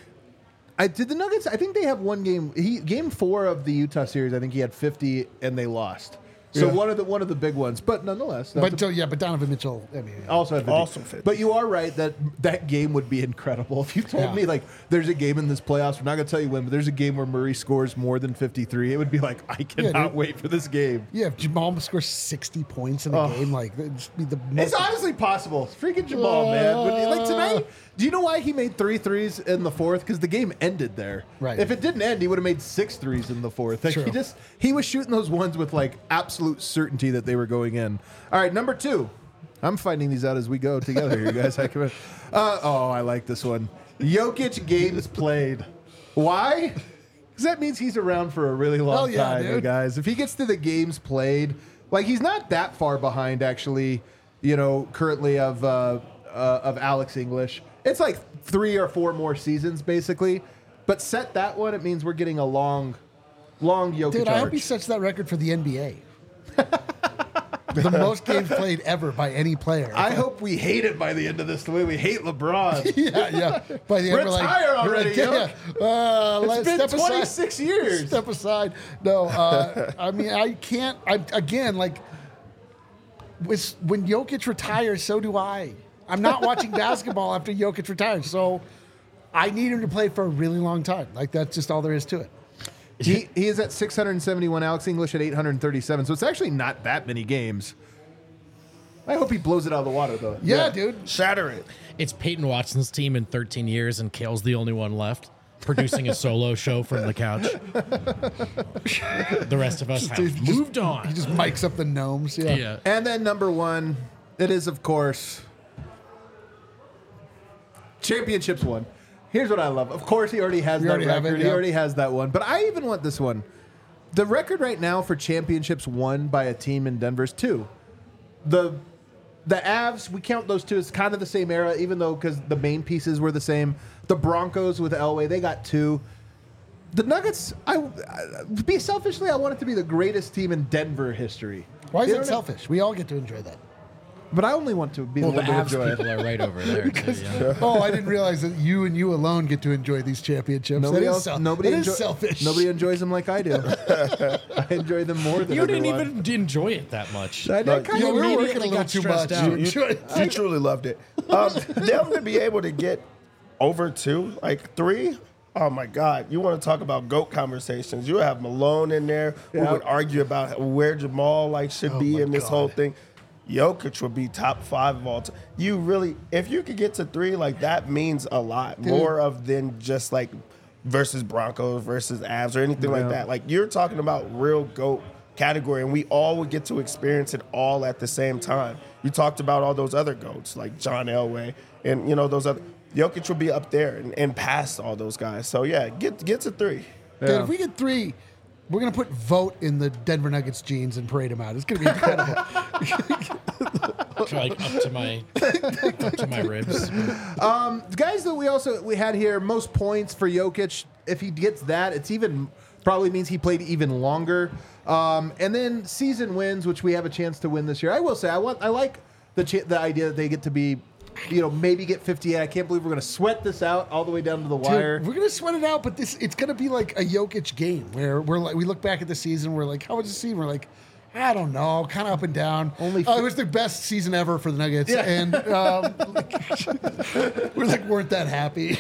I did the Nuggets. I think they have one game. He game four of the Utah series. I think he had fifty and they lost. So Yeah. one of the one of the big ones, but nonetheless, that's But a- uh, yeah, but Donovan Mitchell, I mean, also had fifty. Also fifty. But you are right that that game would be incredible. If you told Yeah. me like there's a game in this playoffs, we're not gonna tell you when, but there's a game where Murray scores more than fifty-three, it would be like I cannot dude. wait for this game. yeah, if Jamal scores sixty points in a Oh. game, like it'd just be the It's most. honestly possible. It's freaking Jamal, man. But, like tonight, do you know why he made three threes in the fourth? Because the game ended there. Right. If it didn't end, he would have made six threes in the fourth. Like True. he just he was shooting those ones with like absolute certainty that they were going in. All right, number two. I'm finding these out as we go together here, guys. I can, uh, oh, I like this one. Jokic games played. Why? Because that means he's around for a really long Hell yeah, time, dude. guys. If he gets to the games played, like he's not that far behind, actually. You know, currently of uh, uh, of Alex English, it's like three or four more seasons, basically. But set that one, it means we're getting a long, long Jokic Dude, I hope he arch. sets that record for the N B A. The most games played ever by any player. I hope we hate it by the end of this, the way we hate LeBron. yeah, yeah. By the end, we're like, Retire we're already, like, yeah, uh, It's let's been step aside. twenty-six years. Step aside. No, uh, I mean, I can't. I again, like, with, when Jokic retires, so do I. I'm not watching basketball after Jokic retires, so I need him to play for a really long time. Like that's just all there is to it. He, he is at six hundred seventy-one, Alex English at eight hundred thirty-seven, so it's actually not that many games. I hope he blows it out of the water, though. Yeah, dude. Shatter it. It's Peyton Watson's team in thirteen years, and Kale's the only one left. producing a solo show from the couch. The rest of us have Just- moved on. He just mics up the gnomes. Yeah. yeah. And then number one, it is, of course, championships one. Here's what I love. Of course, he already has You that already have record. it, He yeah. already has that one. But I even want this one. The record right now for championships won by a team in Denver is two. The the Avs, we count those two as kind of the same era, even though because the main pieces were the same. The Broncos with Elway, they got two. The Nuggets, I, I be selfishly, I want it to be the greatest team in Denver history. Why is You it know what I- selfish? We all get to enjoy that. But I only want to be Well, the the one to Avs enjoy it. people are right over there. Too, yeah. Oh, I didn't realize that you and you alone get to enjoy these championships. Nobody that is else. sel- nobody that enjoy, is selfish. Nobody enjoys them like I do. I enjoy them more than You didn't everyone. even enjoy it that much. I did kind Yeah, of we were immediately working a little got too stressed much. out. You You, enjoyed it. you truly loved it. Um, them to be able to get over two, like three. Oh my God! You want to talk about GOAT conversations? You have Malone in there who Yeah. would argue about where Jamal like should Oh be my in this God. whole thing. Jokic would be top five of all time. You really, if you could get to three, like that means a lot more of than just like versus Broncos versus Avs or anything Yeah. like that. Like you're talking about real GOAT category, and we all would get to experience it all at the same time. You talked about all those other GOATs like John Elway, and you know those other. Jokic would be up there and, and past all those guys. So yeah, get get to three. Dude, Yeah. if we get three, we're gonna put vote in the Denver Nuggets jeans and parade them out. It's gonna be incredible. Like up to my up to my ribs. The guys that we also we had here, most points for Jokic. If he gets that, it's even probably means he played even longer. Um, and then season wins, which we have a chance to win this year. I will say, I want, I like the ch- the idea that they get to be, you know, maybe get fifty-eight. I can't believe we're going to sweat this out all the way down to the wire. Dude, we're gonna sweat it out, but this it's gonna be like a Jokic game where we're like we look back at the season, we're like, how was the season? We're like, I don't know, kind of up and down. Only uh, f- it was the best season ever for the Nuggets, Yeah. and um, we're like weren't that happy.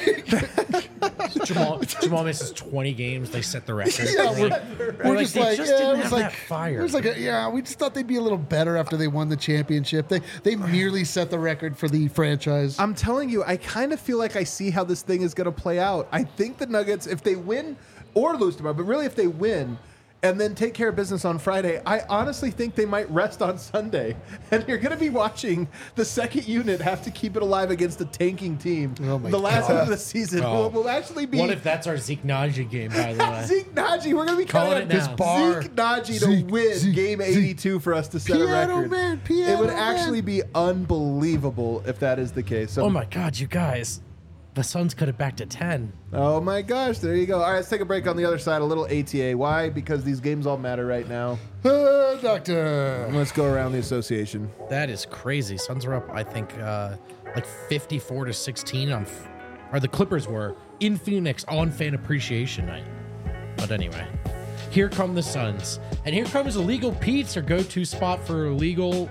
Jamal, Jamal misses twenty games. They set the record. Yeah, Like, we're, we're we're like, just they like, just yeah, didn't it was have like that fire. It was like, a, yeah, we just thought they'd be a little better after they won the championship. They they merely set the record for the franchise. I'm telling you, I kind of feel like I see how this thing is going to play out. I think the Nuggets, if they win or lose tomorrow, but really if they win and then take care of business on Friday, I honestly think they might rest on Sunday. And you're going to be watching the second unit have to keep it alive against a tanking team. Oh my the last God. one of the season Oh. will, will actually be What if that's our Zeke Najee game, by the way? Zeke Najee. We're going to be Calling counting it on now. Bar. Zeke Najee to Zeke, win Zeke, game Zeke. eighty-two for us to set a Piano record. man, it piano would man. actually be unbelievable if that is the case. So Oh my God, you guys. The Suns cut it back to ten. Oh my gosh, there you go. All right, let's take a break on the other side, a little A T A. Why? Because these games all matter right now. Uh, doctor. Let's go around the association. That is crazy. Suns are up, I think, uh, like fifty-four to sixteen on, f- or the Clippers were in Phoenix on Fan Appreciation Night. But anyway, here come the Suns, and here comes Illegal Pete's, our go-to spot for illegal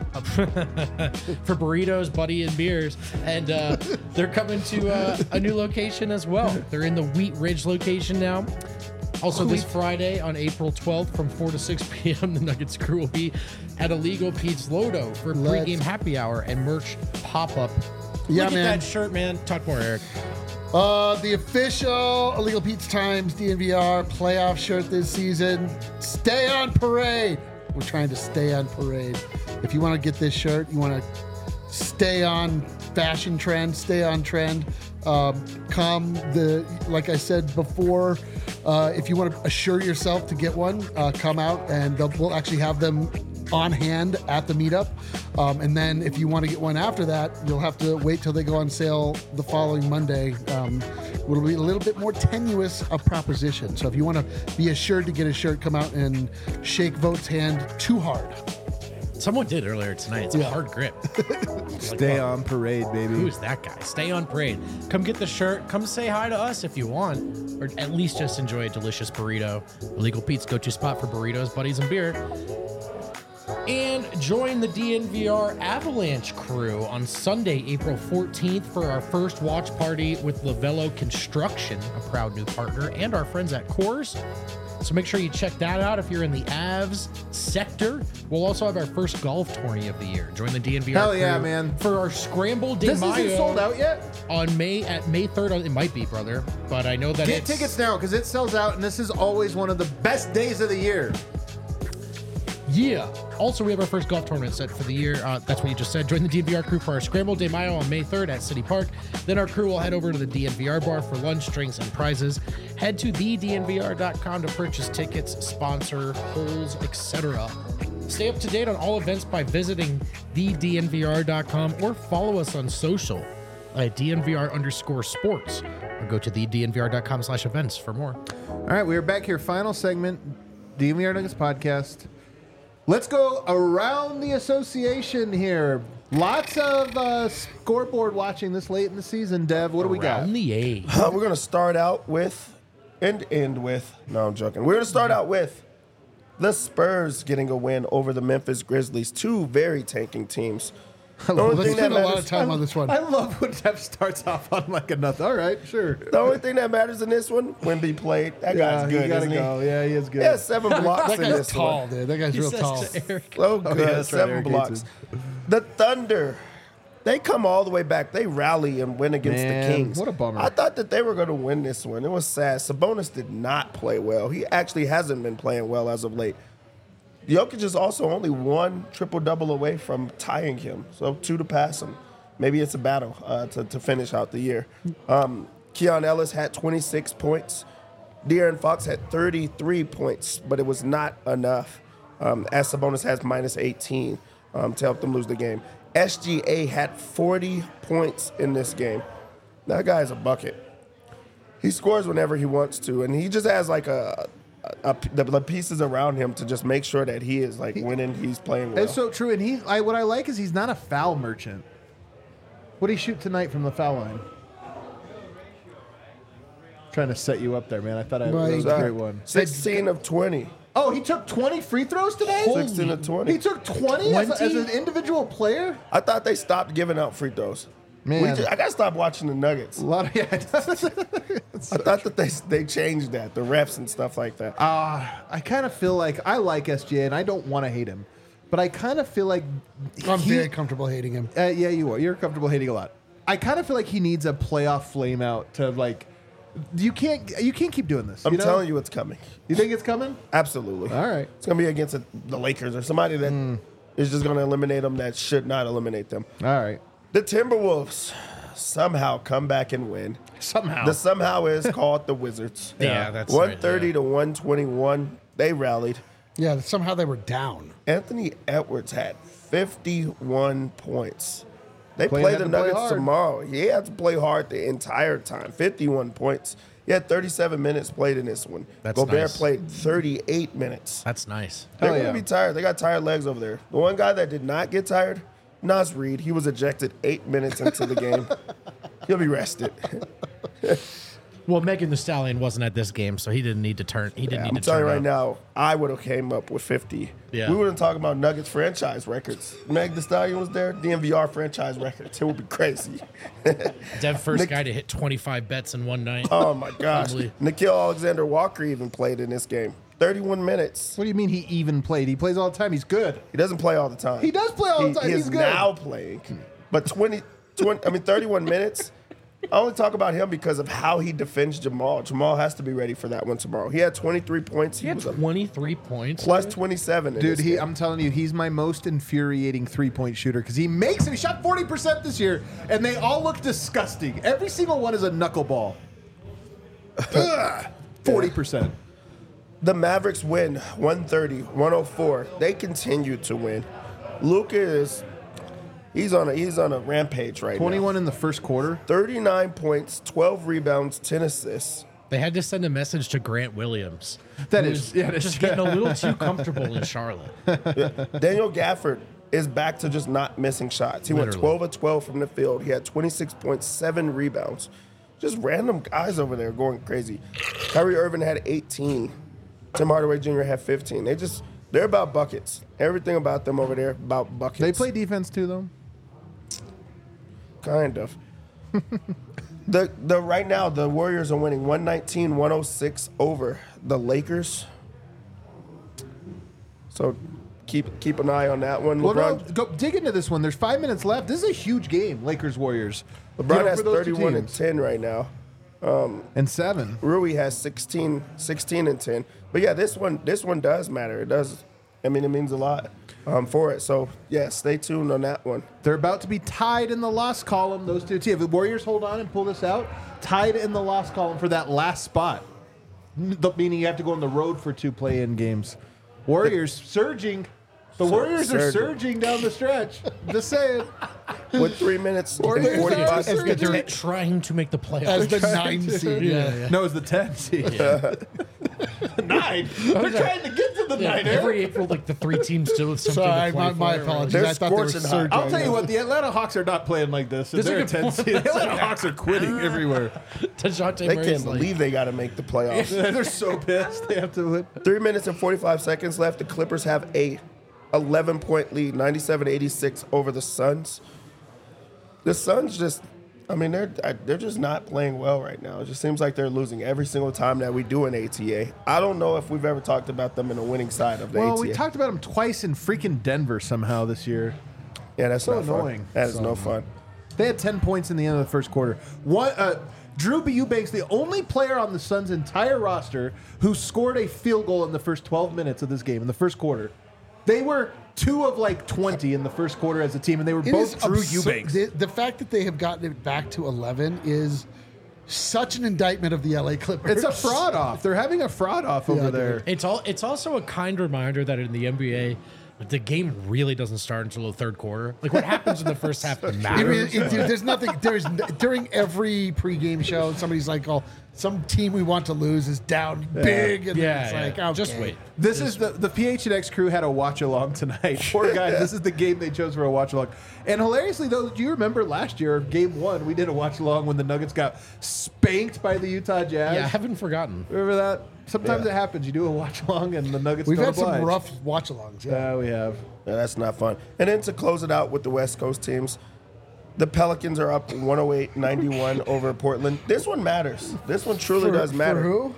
for burritos, buddy, and beers. And uh, they're coming to uh, a new location as well. They're in the Wheat Ridge location now. Also, this Friday on April twelfth from four to six p.m., the Nuggets crew will be at Illegal Pete's Lodo for a Let's- pregame happy hour and merch pop-up. Yeah, Look man. at that shirt, man. Talk more, Eric. Uh, the official Illegal Pete's Times D N V R playoff shirt this season. Stay on parade. We're trying to stay on parade. If you want to get this shirt, you want to stay on fashion trend, stay on trend. Um, come the like I said before, uh, if you want to assure yourself to get one, uh, come out and they'll- we'll actually have them on hand at the meetup. Um, and then if you want to get one after that, you'll have to wait till they go on sale the following Monday. Um, it'll be a little bit more tenuous a proposition. So if you want to be assured to get a shirt, come out and shake Vote's hand too hard. Someone did earlier tonight. It's a Yeah. hard grip. Stay on parade, baby. Who's that guy? Stay on parade. Come get the shirt. Come say hi to us if you want, or at least just enjoy a delicious burrito. Illegal Pete's go-to spot for burritos, buddies, and beer. And join the D N V R Avalanche crew on Sunday, April fourteenth for our first watch party with Lavello Construction, a proud new partner, and our friends at Coors. So make sure you check that out if you're in the Avs sector. We'll also have our first golf tourney of the year. Join the D N V R Hell crew yeah, man. for our Scramble de This Mayo isn't sold out yet? on May at May third. It might be, brother, but I know that Get it's tickets now because it sells out, and this is always one of the best days of the year. Yeah. Also, we have our first golf tournament set for the year. Uh, that's what you just said. Join the D N V R crew for our Scramble de Mayo on May third at City Park. Then our crew will head over to the D N V R bar for lunch, drinks, and prizes. Head to the D N V R dot com to purchase tickets, sponsor, holes, et cetera. Stay up to date on all events by visiting the D N V R dot com or follow us on social at D N V R underscore sports. Or go to the D N V R dot com slash events for more. All right, we are back here. Final segment, D N V R Nuggets podcast. Let's go around the association here. Lots of uh, scoreboard watching this late in the season, Dev. What do we got? Around the A. Uh, we're going to start out with and end with. No, I'm joking. We're going to start out with the Spurs getting a win over the Memphis Grizzlies, two very tanking teams. The only Let's thing that spend a lot matters, of time on this one. I love when Dev starts off on like a nothing. All right, sure. the only thing that matters in this one, Wemby played. That Yeah, guy's you good, gotta isn't he? go. Yeah, he is good. He has seven blocks That in guy's this tall, one. dude. That guy's He real says tall. to Eric, Oh, good. yeah, that's right, seven Eric blocks. Gates. The Thunder, they come all the way back. They rally and win against Man, the Kings. what a bummer. I thought that they were going to win this one. It was sad. Sabonis did not play well. He actually hasn't been playing well as of late. Jokic is also only one triple-double away from tying him, so two to pass him. Maybe it's a battle uh, to, to finish out the year. Um, Keon Ellis had twenty-six points. De'Aaron Fox had thirty-three points, but it was not enough, um, as Sabonis has minus eighteen um, to help them lose the game. S G A had forty points in this game. That guy's a bucket. He scores whenever he wants to, and he just has like a, a, a the, the pieces around him to just make sure that he is like winning. He's playing well. It's so true. And he, I, what I like is he's not a foul merchant. What did he shoot tonight from the foul line? Trying to set you up there, man. I thought I, that was a Uh, great one. sixteen of twenty. Oh, he took twenty free throws today? sixteen of twenty. He took twenty as, a- as twenty? an individual player? I thought they stopped giving out free throws. Man. We just, I gotta stop watching the Nuggets. A lot of, yeah. I thought that they they changed that, the refs and stuff like that. Uh, I kind of feel like I like S G A and I don't want to hate him, but I kind of feel like I'm he- very comfortable hating him. Uh, yeah, you are. You're comfortable hating a lot. I kind of feel like he needs a playoff flame out to like. You can't. You can't keep doing this. I'm you know? telling you, it's coming. You think it's coming? Absolutely. All right. It's gonna be against a, the Lakers or somebody that is just gonna eliminate them that should not eliminate them. All right. The Timberwolves somehow come back and win. Somehow. The somehow is called the Wizards. Yeah, that's one right, thirty yeah. to one twenty-one. They rallied. Yeah, somehow they were down. Anthony Edwards had fifty-one points. They Player play had the to play Nuggets hard. tomorrow. He had to play hard the entire time. fifty-one points. He had thirty-seven minutes played in this one. That's Gobert nice. played thirty-eight minutes. That's nice. They're Hell going to yeah. be tired. They got tired legs over there. The one guy that did not get tired, Nas Reed. He was ejected eight minutes into the game. He'll be rested. Well, Megan Thee Stallion wasn't at this game, so he didn't need to turn. He didn't I'm need to telling turn you right up. now, I would have came up with fifty. Yeah. We wouldn't talk about Nuggets franchise records. Meg Thee Stallion was there. D N V R franchise records. It would be crazy. Dev first Nick- guy to hit twenty-five bets in one night. Oh my gosh. Probably. Nikhil Alexander Walker even played in this game. thirty-one minutes. What do you mean he even played? He plays all the time. He's good. He doesn't play all the time. He does play all the He- time. He He's is good. now playing. But twenty, twenty, I mean, thirty-one minutes. I only talk about him because of how he defends Jamal. Jamal has to be ready for that one tomorrow. He had twenty-three points. He He had was a twenty-three points. plus twenty-seven. in Dude, this he, game. I'm telling you, he's my most infuriating three-point shooter because he makes it. He shot forty percent this year, and they all look disgusting. Every single one is a knuckleball. Ugh, forty percent. The Mavericks win one thirty, one oh four. They continue to win. Luka is he's on a he's on a rampage right twenty-one in the first quarter. now. thirty-nine points, twelve rebounds, ten assists. They had to send a message to Grant Williams. That who is- was yeah, that's- just getting a little too comfortable in Charlotte. Daniel Gafford is back to just not missing shots. He went Literally. twelve of twelve from the field. He had twenty-six point seven rebounds. Just random guys over there going crazy. Kyrie Irving had eighteen. Tim Hardaway Junior had fifteen. They just They're about buckets. Everything about them over there about buckets. They play defense too, though. Kind of. the the right now the Warriors are winning one nineteen one oh six over the Lakers. So keep keep an eye on that one. Well, LeBron no, go dig into this one. There's five minutes left. This is a huge game, Lakers Warriors. LeBron You know, has for those two thirty-one and teams. ten right now. And seven. Rui has sixteen, sixteen and ten. But yeah, this one this one does matter. It does. I mean, it means a lot um, for it. So yeah, stay tuned on that one. They're about to be tied in the loss column. Those two teams. If the Warriors hold on and pull this out, tied in the loss column for that last spot. The- Meaning you have to go on the road for two play-in games. Warriors surging. The Warriors are surging. surging down the stretch. Just saying. With three minutes and Warriors are forty-five surging. seconds. They're trying to make the playoffs. As the trying nine to. seed. yeah, Yeah. yeah. No, it's the ten seed. Nine. They're trying to get to the Yeah, nine. every April, like the three teams still with something Sorry, to my, play my for. apologies. They're I thought they were scorching hot. surging. I'll tell you what, the Atlanta Hawks are not playing like this. If This is a they're a good ten point. seed. The Atlanta Hawks are quitting everywhere. DeJounte They Murray's can't like, believe they got to make the playoffs. They're so pissed. They have to win. Three minutes and forty-five seconds left. The Clippers have a eleven point lead, ninety-seven eighty-six over the Suns. The Suns just, I mean, they're they're just not playing well right now. It just seems like they're losing every single time that we do an A T A. I don't know if we've ever talked about them in a winning side of the Well, A T A. we talked about them twice in freaking Denver somehow this year. yeah, that's so not fun. annoying. That is So no annoying. fun. They had ten points in the end of the first quarter. One, uh, Drew B. Eubanks, the only player on the Suns' entire roster who scored a field goal in the first twelve minutes of this game, in the first quarter. They were two of like twenty in the first quarter as a team, and they were It both is Drew absurd. Eubanks. The, the fact that they have gotten it back to eleven is such an indictment of the L A Clippers. It's a fraud off. They're having a fraud off over Yeah, there. It's all. It's also a kind reminder that in the N B A, the game really doesn't start until the third quarter. Like what happens in the first half It matters. really- it- dude, there's nothing. There's n- during every pregame show, somebody's like, "Oh, some team we want to lose is down big," and yeah, it's yeah. like, okay. just wait. This is the the P H N X crew had a watch along tonight. Poor guys, this is the game they chose for a watch along. And hilariously though, do you remember last year, game one, we did a watch along when the Nuggets got spanked by the Utah Jazz? Yeah, I haven't forgotten. Remember that? Sometimes Yeah. it happens. You do a watch along and the Nuggets We've don't had some oblige. rough watch-alongs. Yeah. Yeah, we have. Yeah, that's not fun. And then to close it out with the West Coast teams, the Pelicans are up one oh eight ninety-one over Portland. This one matters. This one truly For- does matter. For who?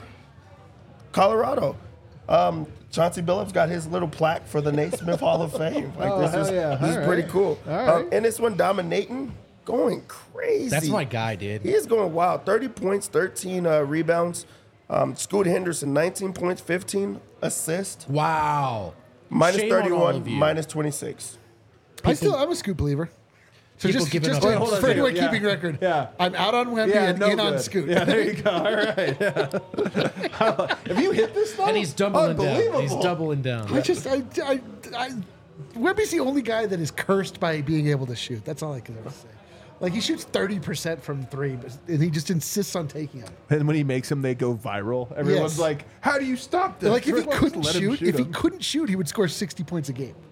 Colorado. Um, Chauncey Billups got his little plaque for the Naismith Hall of Fame. Like Oh, this hell is yeah. this is All pretty right. cool. All Um, right. and this one dominating, going crazy. That's my guy, dude. He is going wild. thirty points, thirteen uh, rebounds. Um, Scoot Henderson, nineteen points, fifteen assists. Wow. Minus Shame on all thirty-one, of you. minus twenty-six. I still, I'm a Scoop believer. So People just, giving just up- to- Wait, hold on a for second. anyone Yeah. keeping record, Yeah. I'm out on Wemby Yeah, and no in on good. Scoot. Yeah, there you go. All right. Yeah. Have you hit this though? And he's doubling down. Unbelievable. He's doubling down. I just, I, I, I, Wemby's the only guy that is cursed by being able to shoot. That's all I can ever say. Like he shoots thirty percent from three, but, and he just insists on taking them. And when he makes them, they go viral. Everyone's Yes. like, "How do you stop this?" Like if he Everyone's couldn't let him shoot, if he them. couldn't shoot, he would score sixty points a game.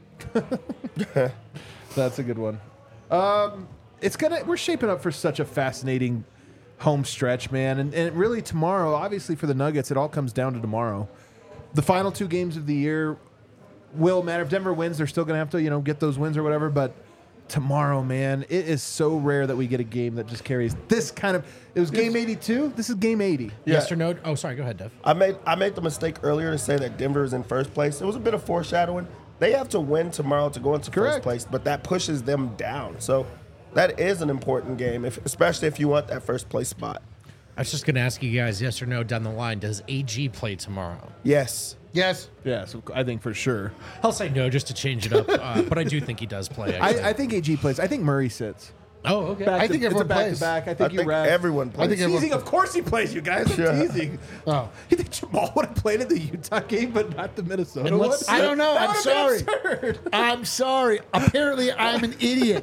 That's a good one. Um, it's gonna. We're shaping up for such a fascinating home stretch, man. And, and really tomorrow, obviously for the Nuggets, it all comes down to tomorrow. The final two games of the year will matter. If Denver wins, they're still gonna have to, you know, get those wins or whatever. But tomorrow, man, it is so rare that we get a game that just carries this kind of. It was game eighty-two. This is game eighty. Yes or no? Oh, sorry. Go ahead, Dev. I made I made the mistake earlier to say that Denver is in first place. It was a bit of foreshadowing. They have to win tomorrow to go into Correct. first place, but that pushes them down. So that is an important game, if, especially if you want that first place spot. I was just going to ask you guys, yes or no, down the line, does A G play tomorrow? Yes. Yes. Yeah, so I think for sure. I'll say no just to change it up, uh, but I do think he does play. actually. I, I think A G plays. I think Murray sits. oh, okay. Back I to- think it's a everyone back plays. to back. I I think you think rest. everyone plays. I think everyone- Teasing, of course he plays, you guys. I'm Yeah. teasing. Oh. You think Jamal would have played in the Utah game, but not the Minnesota And one? let's- I don't know. That I'm would've sorry. been absurd. I'm sorry. Apparently, I'm an idiot.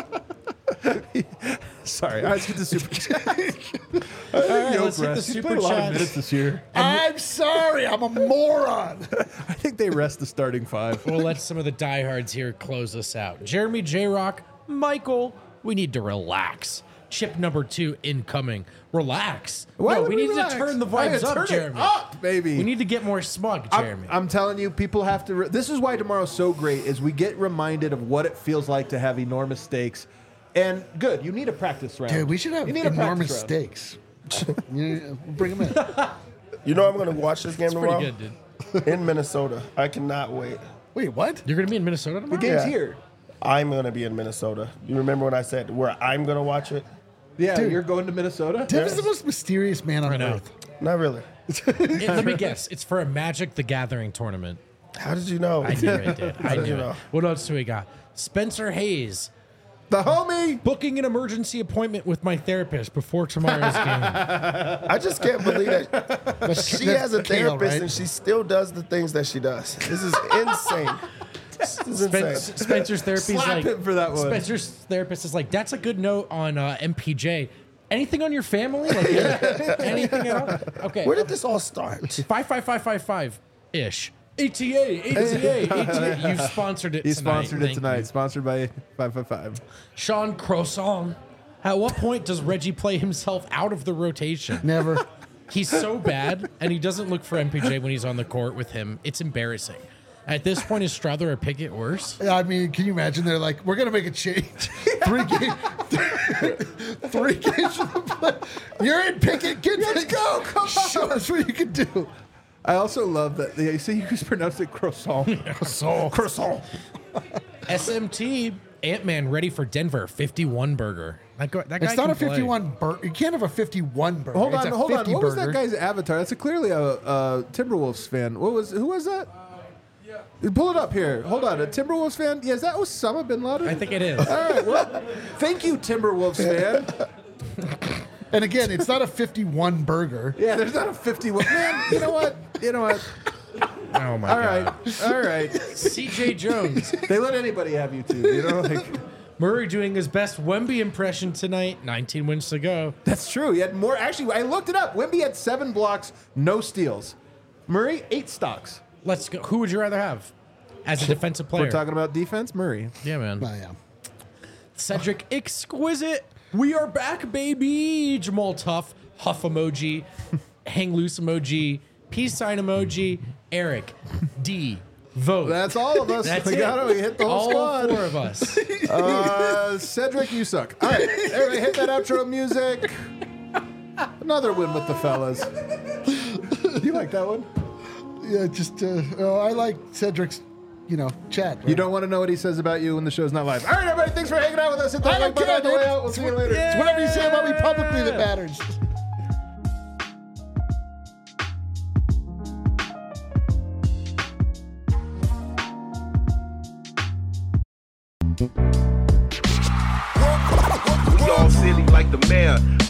Sorry, let's get the super chat. All right, let's hit the He's super played a lot of chats. minutes this year. I'm sorry. I'm a moron. I think they rest the starting five. We'll let some of the diehards here close us out. Jeremy J. Rock, Michael, we need to relax. chip number two incoming. Relax. Why no, would we we need relax? to turn the Why vibes turn up, it Jeremy. up, baby. We need to get more smug, I'm- Jeremy. I'm, telling you, people have to. Re- this is why tomorrow's so great. Is we get reminded of what it feels like to have enormous stakes, and good. You need a practice round. Dude, we should have You need a enormous practice round. stakes. You- we'll bring them in. You know I'm going to watch this game It's tomorrow pretty good, dude. in Minnesota. I cannot wait. Wait, what? You're gonna be in Minnesota The tomorrow? game's Yeah. here. I'm going to be in Minnesota. You remember when I said where I'm going to watch it? Yeah, Dude. you're going to Minnesota. Tim is the most mysterious man on I know. earth. Not really. It- let me guess. It's for a Magic the Gathering tournament. How did you know? I knew it, dude. I did knew you it. know? What else do we got? Spencer Hayes. The homie. Booking an emergency appointment with my therapist before tomorrow's game. I just can't believe that That's, she that's has a Kale, therapist right? and she still does the things that she does. This is insane. This is Spen- insane. Spencer's therapist is Slap like him for that one. Spencer's therapist is like, that's a good note on uh, M P J. Anything on your family? Like anything at all? Okay. Where did this all start? Five five five five five ish. A T A, A T A, A T A. You've sponsored it He tonight. sponsored it Thank tonight. you. Sponsored by five five five. Sean Croissant. At what point does Reggie play himself out of the rotation? Never. He's so bad, and he doesn't look for M P J when he's on the court with him. It's embarrassing. At this point, is Strother or Pickett worse? I mean, can you imagine? They're like, we're gonna make a change. Three games. Three games for the play. You're in Pickett. Get Let's go. Come Show on. us what you can do. I also love that. You see, you just pronounced it croissant. Croissant. Croissant. S M T, Ant-Man ready for Denver, fifty-one burger. That, go, that guy It's not can a play. fifty-one burger. You can't have a fifty-one burger. Hold It's on, a hold on. fifty What was that burger. guy's avatar? That's a clearly a, a Timberwolves fan. What was? Who was that? Pull it up here. Hold on. A Timberwolves fan? Yeah, is that Osama bin Laden? I think it is. All right. Well, thank you, Timberwolves fan. And again, it's not a fifty-one burger. Yeah, there's not a fifty-one. Man, you know what? You know what? Oh my All god. right. All right. C J Jones. They let anybody have you too. You know, like Murray doing his best Wemby impression tonight. nineteen wins to go. that's true. He had more. Actually, I looked it up. Wemby had seven blocks, no steals. Murray eight stocks. Let's go. Who would you rather have as a defensive player? We're talking about defense. Murray. yeah, man. I am. Cedric Exquisite. We are back, baby. Jamal Tuff. Huff emoji. Hang loose emoji. Peace sign emoji. Eric D. Vote. That's all of us. That's we it. got it. We hit the whole All squad. four of us. Uh, Cedric, you suck. All right, everybody, hit that outro music. Another win with the fellas. You like that one? Yeah, just uh, oh, I like Cedric's, you know, chat. Right? You don't want to know what he says about you when the show's not live. All right, everybody, thanks for hanging out with us. Hit I that like don't button on care, the way dude. out. We'll see you later. It's whatever you say about me publicly that matters. We all silly like the mayor.